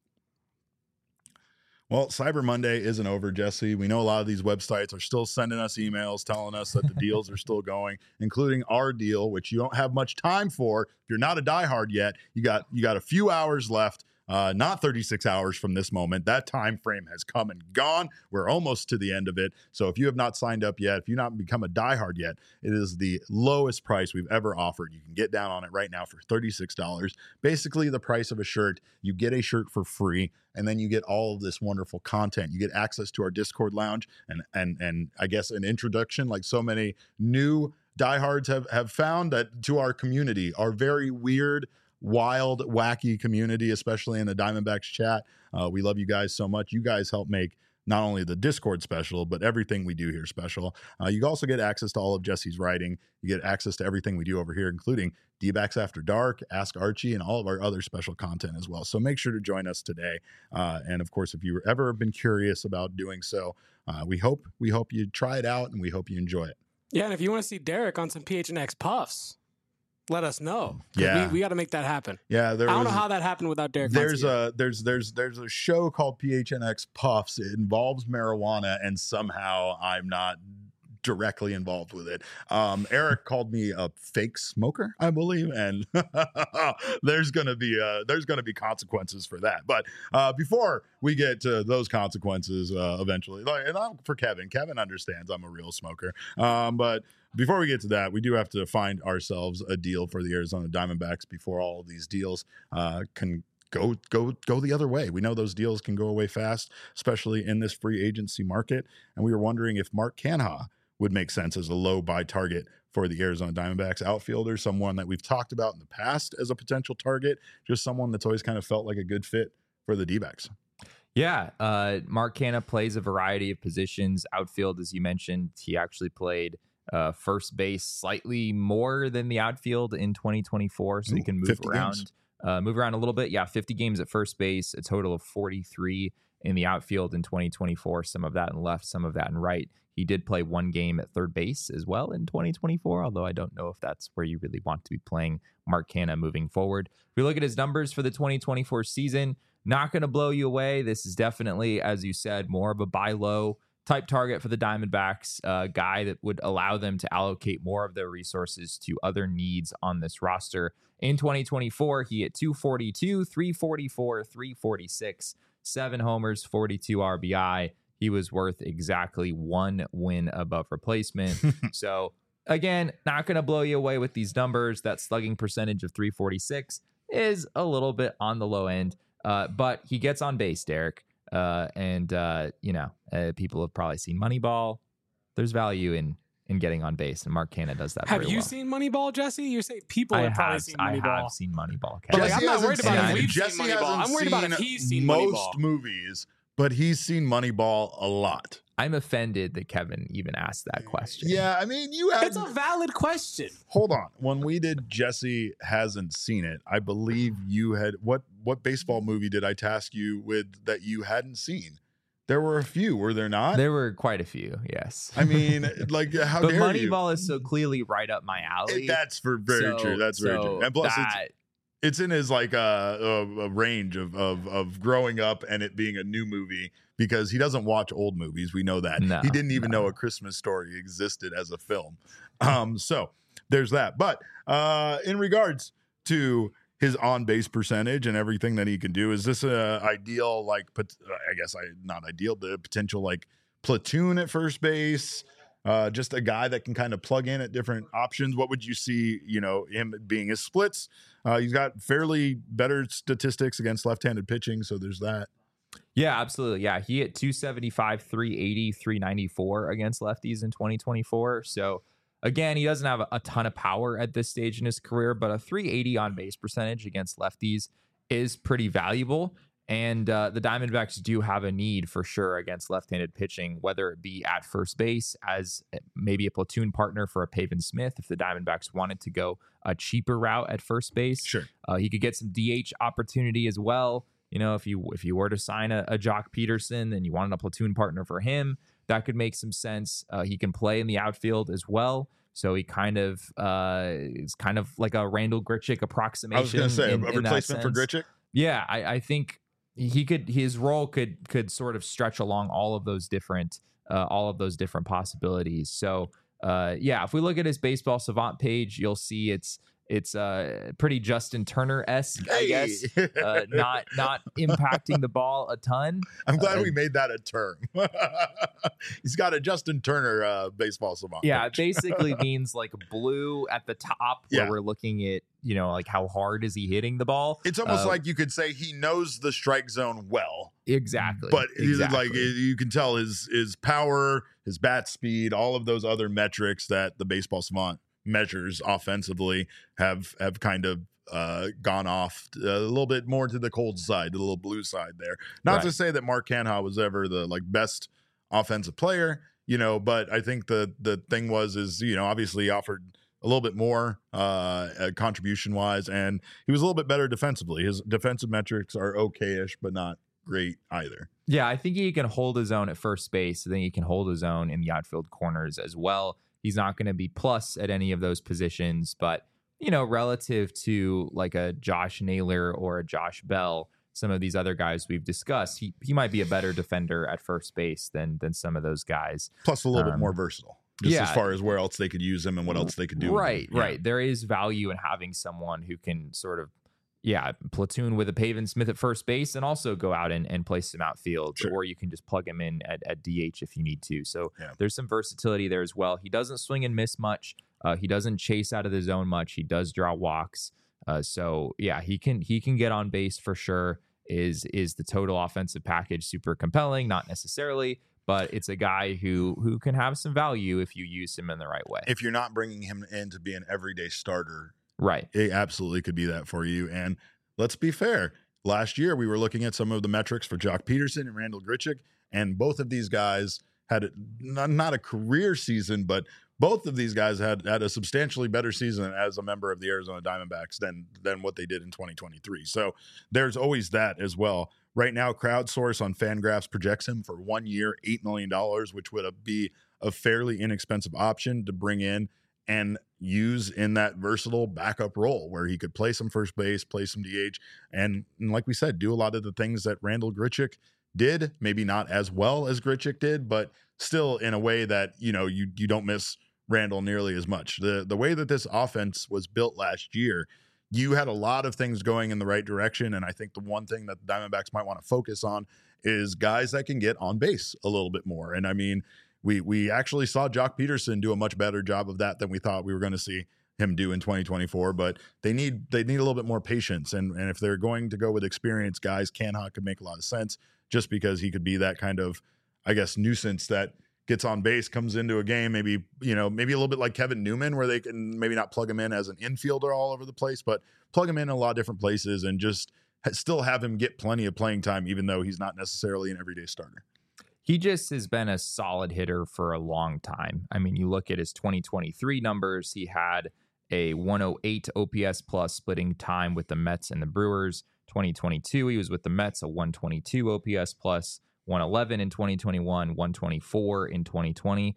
Well, Cyber Monday isn't over, Jesse. We know a lot of these websites are still sending us emails telling us that the deals are still going, including our deal, which you don't have much time for. If you're not a diehard yet, you got a few hours left. Not 36 hours from this moment. That time frame has come and gone. We're almost to the end of it. So if you have not signed up yet, if you've not become a diehard yet, it is the lowest price we've ever offered. You can get down on it right now for $36. Basically the price of a shirt. You get a shirt for free, and then you get all of this wonderful content. You get access to our Discord lounge and I guess an introduction, like so many new diehards have found, that to our community, our very weird, wild, wacky community, especially in the Diamondbacks chat. We love you guys so much. You guys help make not only the Discord special, but everything we do here special. You also get access to all of Jesse's writing. You get access to everything we do over here, including D-Backs After Dark, Ask Archie, and all of our other special content as well. So make sure to join us today. And of course, if you've ever been curious about doing so, we hope you try it out and we hope you enjoy it. Yeah, and if you want to see Derek on some PHNX puffs, let us know. Yeah, we got to make that happen. Yeah, I don't know how that happened without Derek. There's a show called PHNX Puffs. It involves marijuana, and somehow I'm not directly involved with it. Eric called me a fake smoker, I believe, and there's gonna be consequences for that. But before we get to those consequences, eventually, and for Kevin understands I'm a real smoker. But before we get to that, we do have to find ourselves a deal for the Arizona Diamondbacks before all of these deals can go the other way. We know those deals can go away fast, especially in this free agency market. And we were wondering if Mark Canha would make sense as a low buy target for the Arizona Diamondbacks outfielder, someone that we've talked about in the past as a potential target, just someone that's always kind of felt like a good fit for the D-backs. Yeah, Mark Canha plays a variety of positions. Outfield, as you mentioned, he actually played first base slightly more than the outfield in 2024, so he can move around a little bit. Yeah, 50 games at first base, a total of 43 in the outfield in 2024, some of that in left, some of that in right. He did play one game at third base as well in 2024, although I don't know if that's where you really want to be playing Mark Canha moving forward. If we look at his numbers for the 2024 season, not going to blow you away. This is definitely, as you said, more of a buy low type target for the Diamondbacks, a guy that would allow them to allocate more of their resources to other needs on this roster. In 2024, he hit 242, 344, 346, 7 homers, 42 RBI. He was worth exactly 1 win above replacement. So again, not going to blow you away with these numbers. That slugging percentage of 346 is a little bit on the low end, but he gets on base, Derek. People have probably seen Moneyball. There's value in getting on base, and Mark Canha does that. Have you seen Moneyball, Jesse? You're saying people have probably seen Moneyball. I have seen Moneyball. But I'm not worried about if we've seen Moneyball. I'm worried about if he's seen Moneyball. Most movies, but he's seen Moneyball a lot. I'm offended that Kevin even asked that question. Yeah, I mean, it's a valid question. Hold on. When we did Jesse Hasn't Seen It, I believe you had... What baseball movie did I task you with that you hadn't seen? There were a few, were there not? There were quite a few, yes. I mean, like, how dare you? But Moneyball is so clearly right up my alley. That's very true. That's very true. And plus, it's in his like a range of growing up and it being a new movie, because he doesn't watch old movies. We know that. He didn't even know A Christmas Story existed as a film. So there's that. But in regards to his on-base percentage and everything that he can do, is this a ideal, like, I guess not ideal, the potential like platoon at first base? Just a guy that can kind of plug in at different options. What would you see, him being his splits? He's got fairly better statistics against left-handed pitching, so there's that. Yeah, absolutely. Yeah, he hit 275, 380, 394 against lefties in 2024. So again, he doesn't have a ton of power at this stage in his career, but a 380 on base percentage against lefties is pretty valuable. And the Diamondbacks do have a need for sure against left-handed pitching, whether it be at first base as maybe a platoon partner for a Pavin Smith. If the Diamondbacks wanted to go a cheaper route at first base, sure, he could get some DH opportunity as well. If you were to sign a Jock Peterson and you wanted a platoon partner for him, that could make some sense. He can play in the outfield as well. So he kind of is kind of like a Randall Grichuk approximation. I was going to say a replacement for Grichuk. Yeah, I think his role could sort of stretch along all of those different possibilities. So if we look at his Baseball Savant page, you'll see it's pretty Justin Turner-esque, I guess. Not impacting the ball a ton. I'm glad we made that a term. He's got a Justin Turner Baseball Savant. Yeah, it basically means like blue at the top where we're looking at, like how hard is he hitting the ball. It's almost like you could say he knows the strike zone well. Exactly. But like you can tell his power, his bat speed, all of those other metrics that the Baseball Savant measures offensively have kind of gone off a little bit more to the cold side, the little blue side there. Not to say that Mark Canha was ever the best offensive player, but I think the thing is obviously he offered a little bit more contribution wise, and he was a little bit better defensively. His defensive metrics are okay-ish, but not great either. Yeah, I think he can hold his own at first base. I think he can hold his own in the outfield corners as well. He's not going to be plus at any of those positions, but, relative to like a Josh Naylor or a Josh Bell, some of these other guys we've discussed, he might be a better defender at first base than some of those guys. Plus a little bit more versatile, as far as where else they could use him and what else they could do. Right. There is value in having someone who can sort of, platoon with a Pavin Smith at first base and also go out and play some outfield, or you can just plug him in at DH if you need to. So there's some versatility there as well. He doesn't swing and miss much. He doesn't chase out of the zone much. He does draw walks. He can get on base for sure. Is the total offensive package super compelling? Not necessarily, but it's a guy who can have some value if you use him in the right way. If you're not bringing him in to be an everyday starter, right, it absolutely could be that for you. And let's be fair. Last year, we were looking at some of the metrics for Jock Peterson and Randall Grichuk, and both of these guys had not a career season, but both of these guys had a substantially better season as a member of the Arizona Diamondbacks than what they did in 2023. So there's always that as well. Right now, Crowdsource on Fangraphs projects him for 1 year, $8 million, which would be a fairly inexpensive option to bring in and use in that versatile backup role where he could play some first base, play some DH, and like we said, do a lot of the things that Randal Grichuk did, maybe not as well as Grichuk did, but still in a way that, you don't miss Randal nearly as much. The way that this offense was built last year, you had a lot of things going in the right direction, and I think the one thing that the Diamondbacks might want to focus on is guys that can get on base a little bit more. And I mean, we actually saw Jock Peterson do a much better job of that than we thought we were going to see him do in 2024, but they need a little bit more patience. And if they're going to go with experienced guys, Canha could make a lot of sense just because he could be that kind of, I guess, nuisance that gets on base, comes into a game, maybe a little bit like Kevin Newman, where they can maybe not plug him in as an infielder all over the place, but plug him in a lot of different places and just still have him get plenty of playing time, even though he's not necessarily an everyday starter. He just has been a solid hitter for a long time. I mean, you look at his 2023 numbers, he had a 108 OPS plus splitting time with the Mets and the Brewers. 2022, he was with the Mets, a 122 OPS plus, 111 in 2021, 124 in 2020,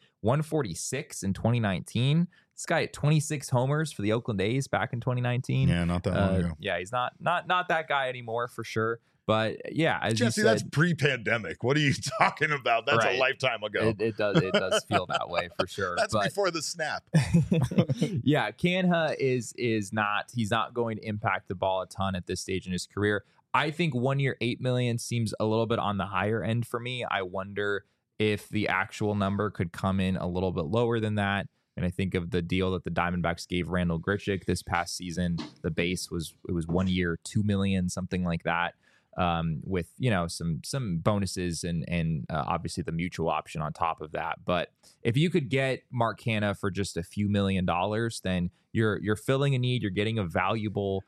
146 in 2019. This guy had 26 homers for the Oakland A's back in 2019. Yeah, not that long ago. Yeah, he's not that guy anymore for sure. But yeah, as Jesse, you said, that's pre-pandemic. What are you talking about? That's right. A lifetime ago. It does feel that way for sure. That's before the snap. Yeah, Canha is not. He's not going to impact the ball a ton at this stage in his career. I think 1 year, $8 million seems a little bit on the higher end for me. I wonder if the actual number could come in a little bit lower than that. And I think of the deal that the Diamondbacks gave Randal Grichuk this past season. The base was 1 year, $2 million, something like that. With some bonuses and obviously the mutual option on top of that. But if you could get Mark Canha for just a few $1 million, then you're filling a need. You're getting a valuable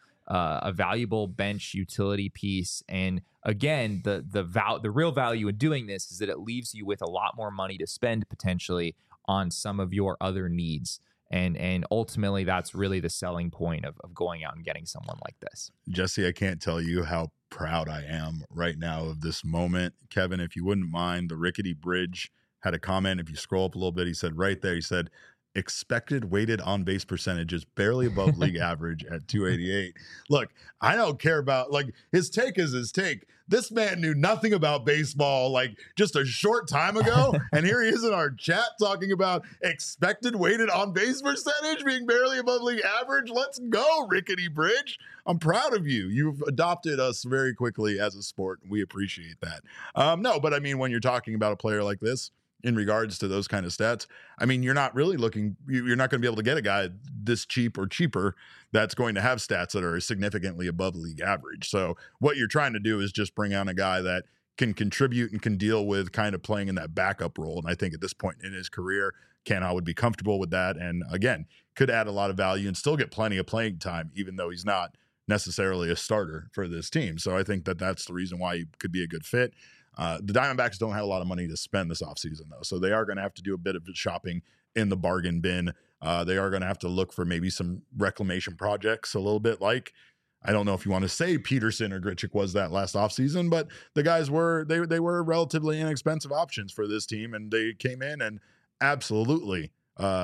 bench utility piece. And again, the real value in doing this is that it leaves you with a lot more money to spend potentially on some of your other needs. And ultimately, that's really the selling point of going out and getting someone like this. Jesse, I can't tell you how proud I am right now of this moment. Kevin, if you wouldn't mind, the Rickety Bridge had a comment. If you scroll up a little bit, he said right there, he said, expected weighted on base percentage is barely above league average at 288. Look, I don't care about, like, his take is his take. This man knew nothing about baseball like just a short time ago. And here he is in our chat talking about expected weighted on base percentage being barely above league average. Let's go, Rickety Bridge. I'm proud of you. You've adopted us very quickly as a sport. We appreciate that. No, but I mean, when you're talking about a player like this, in regards to those kind of stats, I mean, you're not really you're not going to be able to get a guy this cheap or cheaper that's going to have stats that are significantly above league average. So what you're trying to do is just bring on a guy that can contribute and can deal with kind of playing in that backup role. And I think at this point in his career, Canha would be comfortable with that. And again, could add a lot of value and still get plenty of playing time, even though he's not necessarily a starter for this team. So I think that that's the reason why he could be a good fit. The Diamondbacks don't have a lot of money to spend this offseason, though, so they are going to have to do a bit of shopping in the bargain bin. They are going to have to look for maybe some reclamation projects, a little bit like, I don't know if you want to say Peterson or Grichuk was that last offseason, but the guys were relatively inexpensive options for this team, and they came in and absolutely,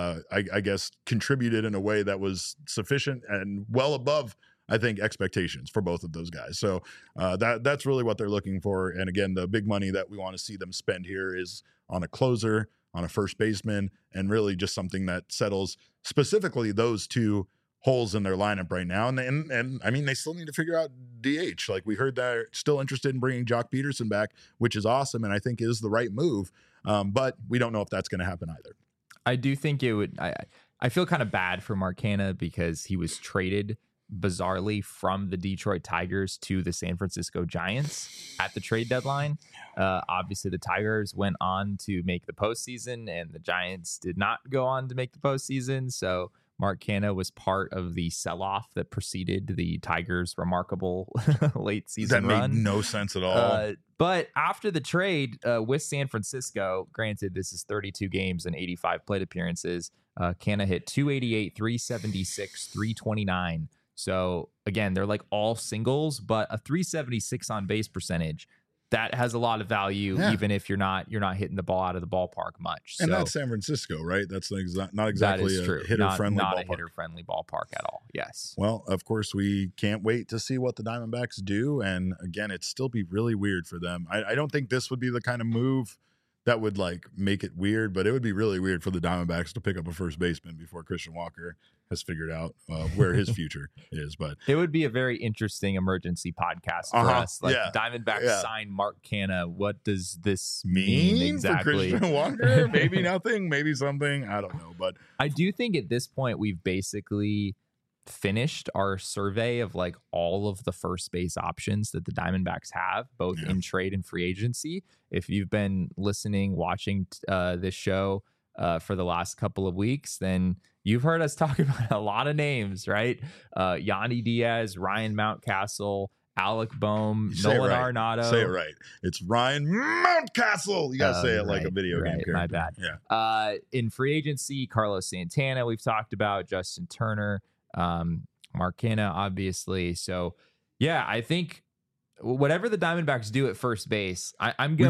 I guess, contributed in a way that was sufficient and well above, I think, expectations for both of those guys. So that's really what they're looking for. And again, the big money that we want to see them spend here is on a closer, on a first baseman, and really just something that settles specifically those two holes in their lineup right now. And I mean, they still need to figure out DH. Like we heard, they're still interested in bringing Jock Peterson back, which is awesome, and I think is the right move. But we don't know if that's going to happen either. I do think it would. I feel kind of bad for Mark Canha because he was traded bizarrely from the Detroit Tigers to the San Francisco Giants at the trade deadline. Obviously, the Tigers went on to make the postseason, and the Giants did not go on to make the postseason. So Mark Canha was part of the sell-off that preceded the Tigers' remarkable late season run. That made no sense at all. But after the trade with San Francisco, granted this is 32 games and 85 plate appearances, Canha hit 288, 376, 329. So again, they're like all singles, but a 376 on base percentage, that has a lot of value, even if you're not hitting the ball out of the ballpark much. And that's San Francisco, right? That's not exactly a hitter-friendly ballpark. Not a hitter-friendly ballpark at all, yes. Well, of course, we can't wait to see what the Diamondbacks do. And again, it'd still be really weird for them. I don't think this would be the kind of move that would like make it weird, but it would be really weird for the Diamondbacks to pick up a first baseman before Christian Walker has figured out where his future is. But it would be a very interesting emergency podcast for us. Like Diamondbacks sign Mark Canha. What does this mean exactly? For Christian Walker? Maybe nothing, maybe something. I don't know. But I do think at this point we've basically finished our survey of like all of the first base options that the Diamondbacks have, both in trade and free agency. If you've been listening, watching this show for the last couple of weeks, then you've heard us talk about a lot of names, right? Yandy Diaz, Ryan Mountcastle, Alec Bohm, Nolan Arenado. Say it right. It's Ryan Mountcastle. You got to say it like a video game character. My bad. Yeah. In free agency, Carlos Santana, we've talked about, Justin Turner, Mark Canha, obviously. So, yeah, I think whatever the Diamondbacks do at first base, I'm going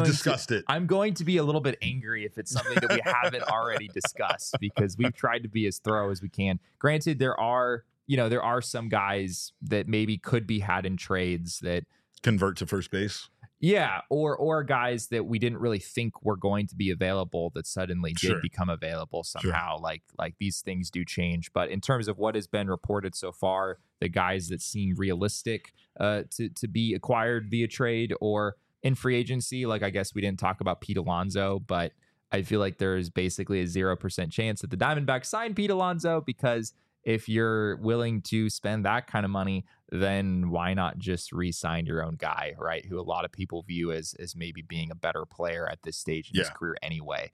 to be a little bit angry if it's something that we haven't already discussed, because we've tried to be as thorough as we can. Granted, there are some guys that maybe could be had in trades that convert to first base. Yeah, or guys that we didn't really think were going to be available that suddenly did become available somehow. Like these things do change. But in terms of what has been reported so far, the guys that seem realistic to be acquired via trade or in free agency, like I guess we didn't talk about Pete Alonso, but I feel like there is basically a 0% chance that the Diamondbacks sign Pete Alonso, because if you're willing to spend that kind of money, then why not just re-sign your own guy, right? Who a lot of people view as maybe being a better player at this stage in his career anyway.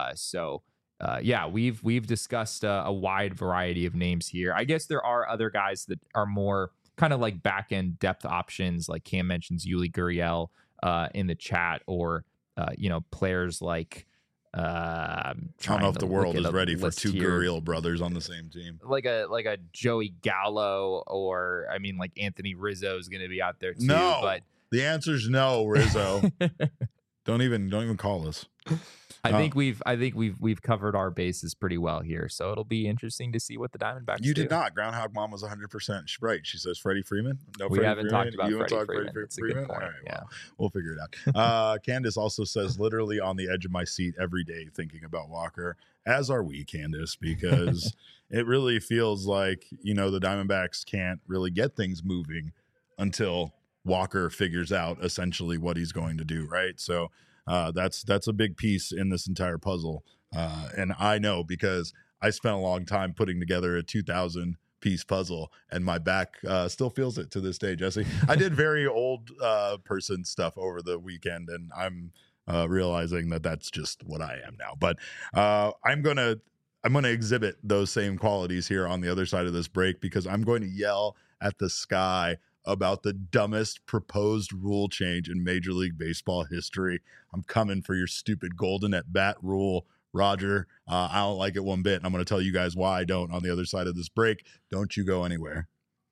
Yeah. We've discussed a wide variety of names here. I guess there are other guys that are more kind of like back-end depth options, like Cam mentions Yuli Gurriel in the chat, or players like I don't know if the world is ready for two Gurriel brothers on the same team. Like a Joey Gallo, or I mean, like Anthony Rizzo is going to be out there too. No, but the answer is no, Rizzo. Don't even call us. I think we've covered our bases pretty well here, so it'll be interesting to see what the Diamondbacks do. You did not. Groundhog Mom was 100% right. She says Freddie Freeman. No, we haven't talked about Freddie Freeman. That's a good point. All right, we'll figure it out. Candace also says, literally on the edge of my seat every day thinking about Walker, as are we, Candace, because it really feels like, the Diamondbacks can't really get things moving until Walker figures out essentially what he's going to do, right? So that's a big piece in this entire puzzle. And I know, because I spent a long time putting together a 2,000 piece puzzle, and my back still feels it to this day, Jesse. I did very old person stuff over the weekend, and I'm realizing that that's just what I am now. But I'm gonna exhibit those same qualities here on the other side of this break, because I'm going to yell at the sky about the dumbest proposed rule change in Major League Baseball history. I'm coming for your stupid golden at bat rule, Roger. I don't like it one bit, and I'm going to tell you guys why I don't on the other side of this break. Don't you go anywhere.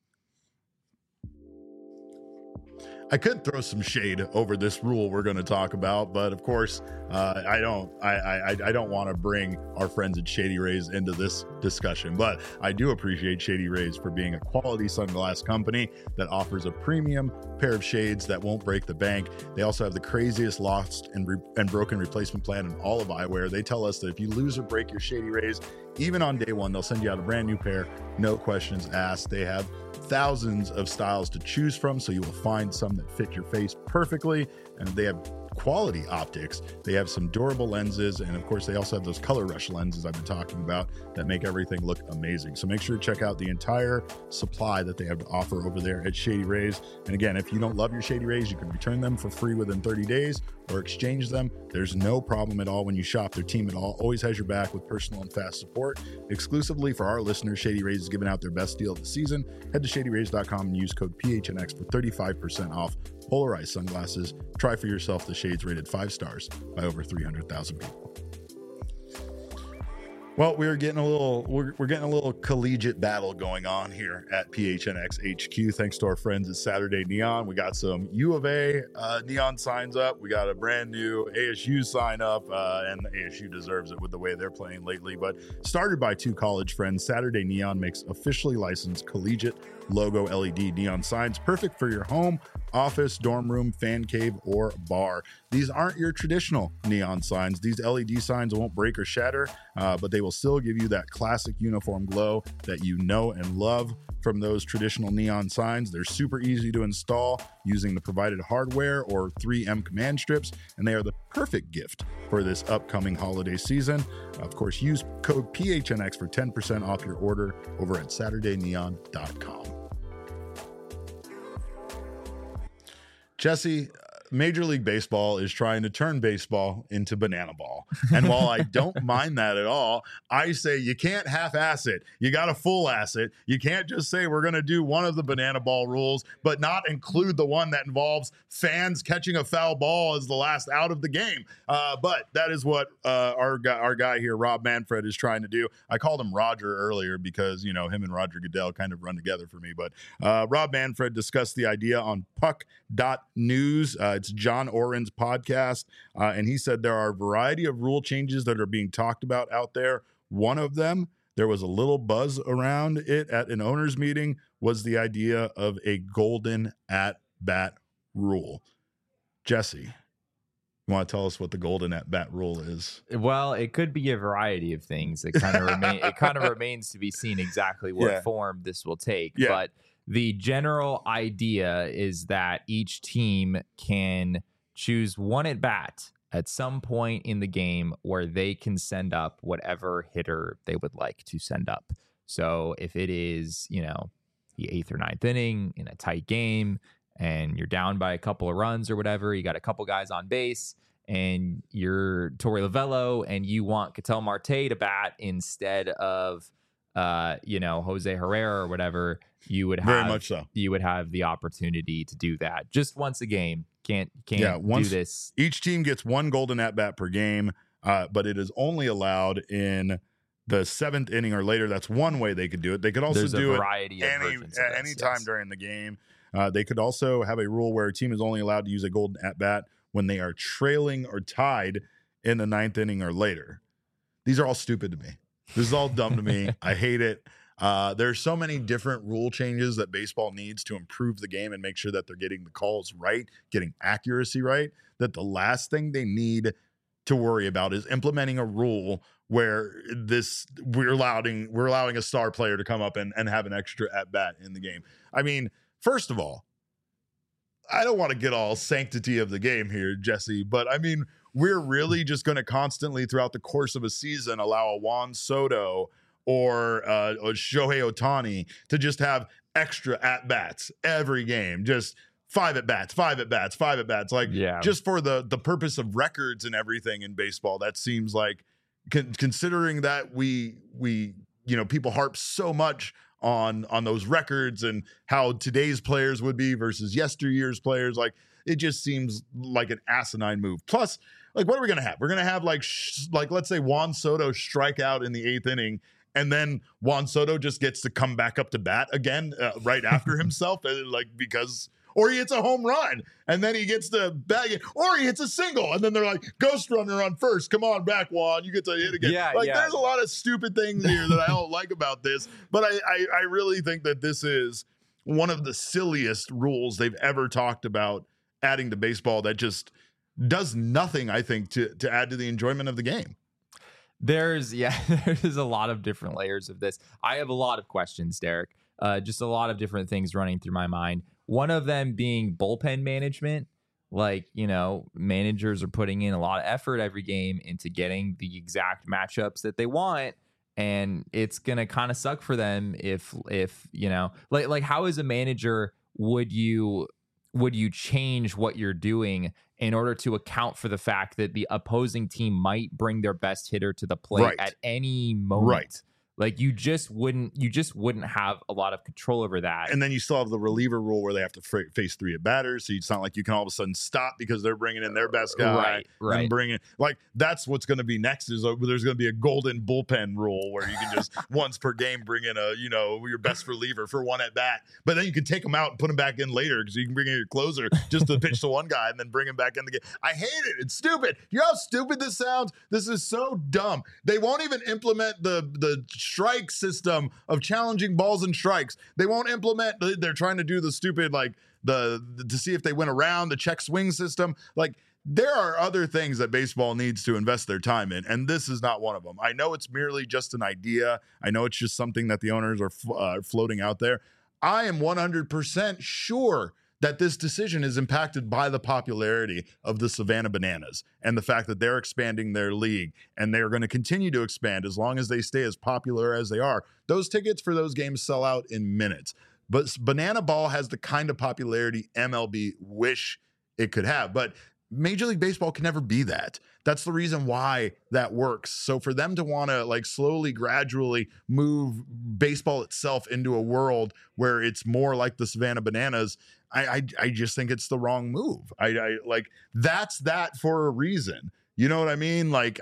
I could throw some shade over this rule we're going to talk about, but of course, I don't want to bring our friends at Shady Rays into this discussion. But I do appreciate Shady Rays for being a quality sunglass company that offers a premium pair of shades that won't break the bank. They also have the craziest lost and broken replacement plan in all of eyewear. They tell us that if you lose or break your Shady Rays, even on day one, they'll send you out a brand new pair, no questions asked. They have thousands of styles to choose from, so you will find some that fit your face perfectly, and they have quality optics. They have some durable lenses, and of course they also have those color rush lenses I've been talking about that make everything look amazing. So make sure to check out the entire supply that they have to offer over there at Shady Rays. And again, if you don't love your Shady Rays, you can return them for free within 30 days, or exchange them, there's no problem at all when you shop. Their team at all always has your back with personal and fast support. Exclusively for our listeners, Shady Rays is giving out their best deal of the season. Head to shadyrays.com and use code PHNX for 35% off polarized sunglasses. Try for yourself the shades rated 5 stars by over 300,000 people. Well, we're getting a little collegiate battle going on here at PHNX HQ. Thanks to our friends at Saturday Neon. We got some U of A neon signs up. We got a brand new ASU sign up, and ASU deserves it with the way they're playing lately. But started by 2 college friends, Saturday Neon makes officially licensed collegiate logo LED neon signs, perfect for your home, office, dorm room, fan cave, or bar. These aren't your traditional neon signs. These LED signs won't break or shatter, but they will still give you that classic uniform glow that you know and love from those traditional neon signs. They're super easy to install using the provided hardware or 3M command strips, and they are the perfect gift for this upcoming holiday season. Of course, use code PHNX for 10% off your order over at SaturdayNeon.com. Jesse, Major League Baseball is trying to turn baseball into banana ball. And while I don't mind that at all, I say you can't half-ass it. You got to full-ass it. You can't just say we're going to do one of the banana ball rules, but not include the one that involves fans catching a foul ball as the last out of the game. But that is what our guy here, Rob Manfred, is trying to do. I called him Roger earlier because, him and Roger Goodell kind of run together for me. But Rob Manfred discussed the idea on Puck.News. It's John Oren's podcast, and he said there are a variety of rule changes that are being talked about out there. One of them, there was a little buzz around it at an owners meeting, was the idea of a golden at-bat rule. Jesse, you want to tell us what the golden at-bat rule is? Well, it could be a variety of things. It kind of remains to be seen exactly what form this will take. Yeah. But the general idea is that each team can choose one at bat at some point in the game where they can send up whatever hitter they would like to send up. So if it is, the 8th or 9th inning in a tight game and you're down by a couple of runs or whatever, you got a couple guys on base and you're Torey Lovello and you want Ketel Marte to bat instead of Jose Herrera or whatever, you would have very much so. You would have the opportunity to do that just once a game. Can't do this. Each team gets one golden at bat per game, but it is only allowed in the 7th inning or later. That's one way they could do it. They could also do it any time during the game. They could also have a rule where a team is only allowed to use a golden at bat when they are trailing or tied in the 9th inning or later. These are all stupid to me. This is all dumb to me. I hate it. There's so many different rule changes that baseball needs to improve the game and make sure that they're getting the calls right, getting accuracy right, that the last thing they need to worry about is implementing a rule where we're allowing a star player to come up and have an extra at bat in the game. I mean, first of all, I don't want to get all sanctity of the game here, Jesse, but I mean, we're really just going to constantly throughout the course of a season allow a Juan Soto or Shohei Ohtani to just have extra at-bats every game, just 5 at-bats, 5 at-bats, 5 at-bats, just for the purpose of records and everything in baseball. That seems like, considering that we people harp so much on those records and how today's players would be versus yesteryear's players, it just seems like an asinine move. Plus, what are we going to have? We're going to have let's say Juan Soto strike out in the 8th inning, and then Juan Soto just gets to come back up to bat again right after himself, or he hits a home run and then he gets to bag it, or he hits a single and then they're like, ghost runner on first. Come on back, Juan. You get to hit again. There's a lot of stupid things here that I don't like about this, but I really think that this is one of the silliest rules they've ever talked about adding to baseball that just does nothing, I think, to add to the enjoyment of the game. There's a lot of different layers of this. I have a lot of questions, Derek. Just a lot of different things running through my mind. One of them being bullpen management. Managers are putting in a lot of effort every game into getting the exact matchups that they want. And it's going to kind of suck for them if how as a manager would you would you change what you're doing in order to account for the fact that the opposing team might bring their best hitter to the plate at any moment? Right. Like you just wouldn't have a lot of control over that. And then you still have the reliever rule where they have to face 3 at batters. So it's not like you can all of a sudden stop because they're bringing in their best guy. Right. And bringing like that's what's going to be next is there's going to be a golden bullpen rule where you can just once per game bring in your best reliever for 1 at bat. But then you can take them out and put them back in later because you can bring in your closer just to pitch to one guy and then bring him back in the game. I hate it. It's stupid. You know how stupid this sounds? This is so dumb. They won't even implement the strike system of challenging balls and strikes. They won't implement. They're trying to do the stupid to see if they went around the check swing system. Like there are other things that baseball needs to invest their time in, and this is not one of them. I know it's merely just an idea. I know it's just something that the owners are floating out there. I am 100% sure that this decision is impacted by the popularity of the Savannah Bananas and the fact that they're expanding their league and they're going to continue to expand as long as they stay as popular as they are. Those tickets for those games sell out in minutes. But Banana Ball has the kind of popularity MLB wish it could have. But Major League Baseball can never be that. That's the reason why that works. So for them to want to slowly, gradually move baseball itself into a world where it's more like the Savannah Bananas, I just think it's the wrong move. I that's that for a reason. You know what I mean? Like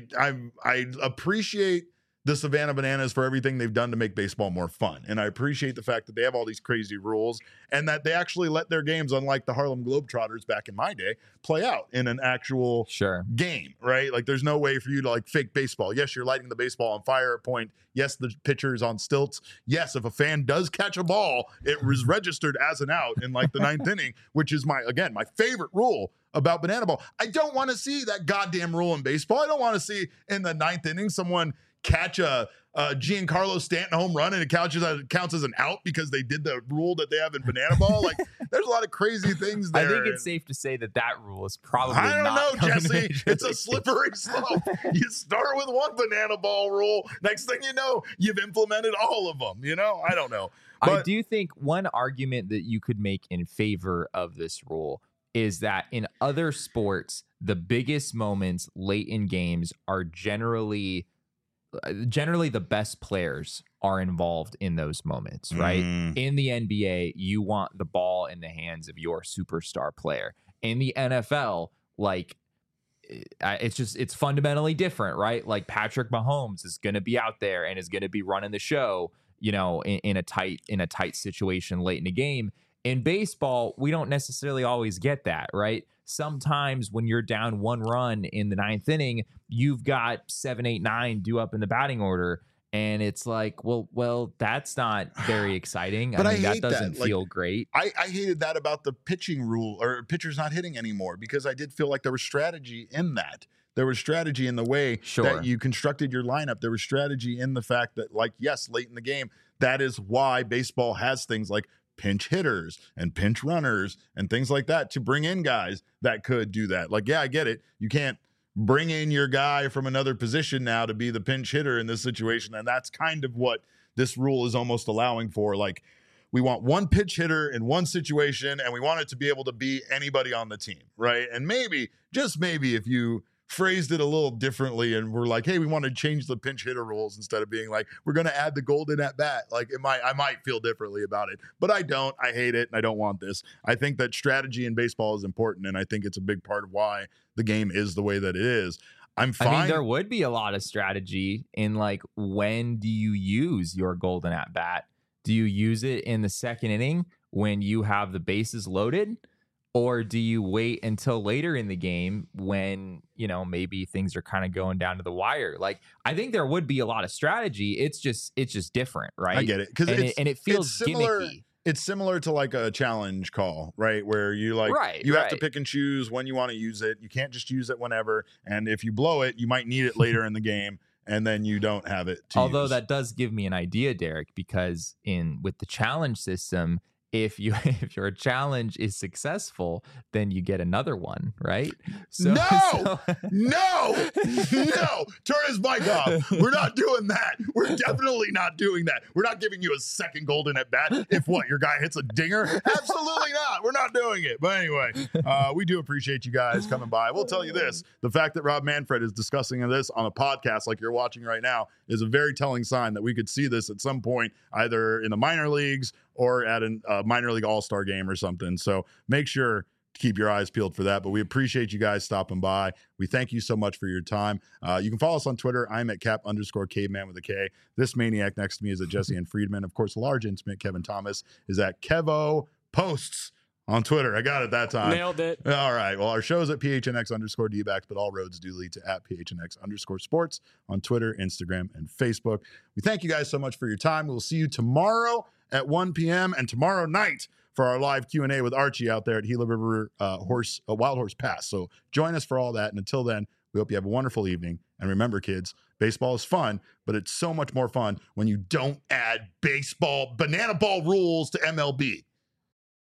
I appreciate the Savannah Bananas for everything they've done to make baseball more fun. And I appreciate the fact that they have all these crazy rules and that they actually let their games, unlike the Harlem Globetrotters back in my day, play out in an actual game, right? Like there's no way for you to fake baseball. Yes, you're lighting the baseball on fire at point. Yes, the pitcher is on stilts. Yes, if a fan does catch a ball, it was registered as an out in the 9th inning, which is my favorite rule about Banana Ball. I don't want to see that goddamn rule in baseball. I don't want to see in the 9th inning someone catch a Giancarlo Stanton home run and it counts as an out because they did the rule that they have in Banana Ball. There's a lot of crazy things there. I think it's safe to say that rule is probably I don't not know, Jesse. It's a slippery slope. You start with one Banana Ball rule. Next thing you know, you've implemented all of them. I don't know. But I do think one argument that you could make in favor of this rule is that in other sports, the biggest moments late in games are generally the best players are involved in those moments, right? In the NBA, you want the ball in the hands of your superstar player. In the NFL, it's fundamentally different, right? Like Patrick Mahomes is going to be out there and is going to be running the show, in a tight situation late in the game. In baseball, we don't necessarily always get that, right? Sometimes when you're down 1 run in the 9th inning, you've got 7, 8, 9 due up in the batting order. And it's like, well, that's not very exciting. But I mean, that doesn't feel great. I hated that about the pitching rule or pitchers not hitting anymore because I did feel like there was strategy in that. There was strategy in the way that you constructed your lineup. There was strategy in the fact that, yes, late in the game, that is why baseball has things like pinch hitters and pinch runners and things like that to bring in guys that could do that. I get it. You can't bring in your guy from another position now to be the pinch hitter in this situation. And that's kind of what this rule is almost allowing for. We want one pinch hitter in one situation and we want it to be able to be anybody on the team, right? And maybe, just maybe, if you phrased it a little differently and we're like, hey, we want to change the pinch hitter rules instead of being like, we're going to add the golden at bat. I might feel differently about it, but I don't. I hate it and I don't want this. I think that strategy in baseball is important and I think it's a big part of why the game is the way that it is. I'm fine. I mean, there would be a lot of strategy in when do you use your golden at bat? Do you use it in the 2nd inning when you have the bases loaded? Or do you wait until later in the game when, maybe things are kind of going down to the wire? I think there would be a lot of strategy. It's just different, right? I get it. It feels gimmicky. It's similar to a challenge call, right? Where you have to pick and choose when you want to use it. You can't just use it whenever. And if you blow it, you might need it later in the game. And then you don't have it to Although use. That does give me an idea, Derek, because with the challenge system, if your challenge is successful, then you get another one, right? No. Turn his mic off. We're not doing that. We're definitely not doing that. We're not giving you a second golden at bat if your guy hits a dinger. Absolutely not. We're not doing it. But anyway, we do appreciate you guys coming by. We'll tell you this: the fact that Rob Manfred is discussing this on a podcast like you're watching right now is a very telling sign that we could see this at some point, either in the minor leagues or at a minor league all-star game or something. So make sure to keep your eyes peeled for that. But we appreciate you guys stopping by. We thank you so much for your time. You can follow us on Twitter. I'm at Cap_caveman with a K. This maniac next to me is at Jesse and Friedman. Of course, large intimate Kevin Thomas is at Kevo Posts on Twitter. I got it that time. Nailed it. All right. Well, our show's at PHNX_DBacks, but all roads do lead to at PHNX_sports on Twitter, Instagram, and Facebook. We thank you guys so much for your time. We'll see you tomorrow at 1 p.m. and tomorrow night for our live Q&A with Archie out there at Gila River Wild Horse Pass. So join us for all that. And until then, we hope you have a wonderful evening. And remember, kids, baseball is fun, but it's so much more fun when you don't add banana ball rules to MLB.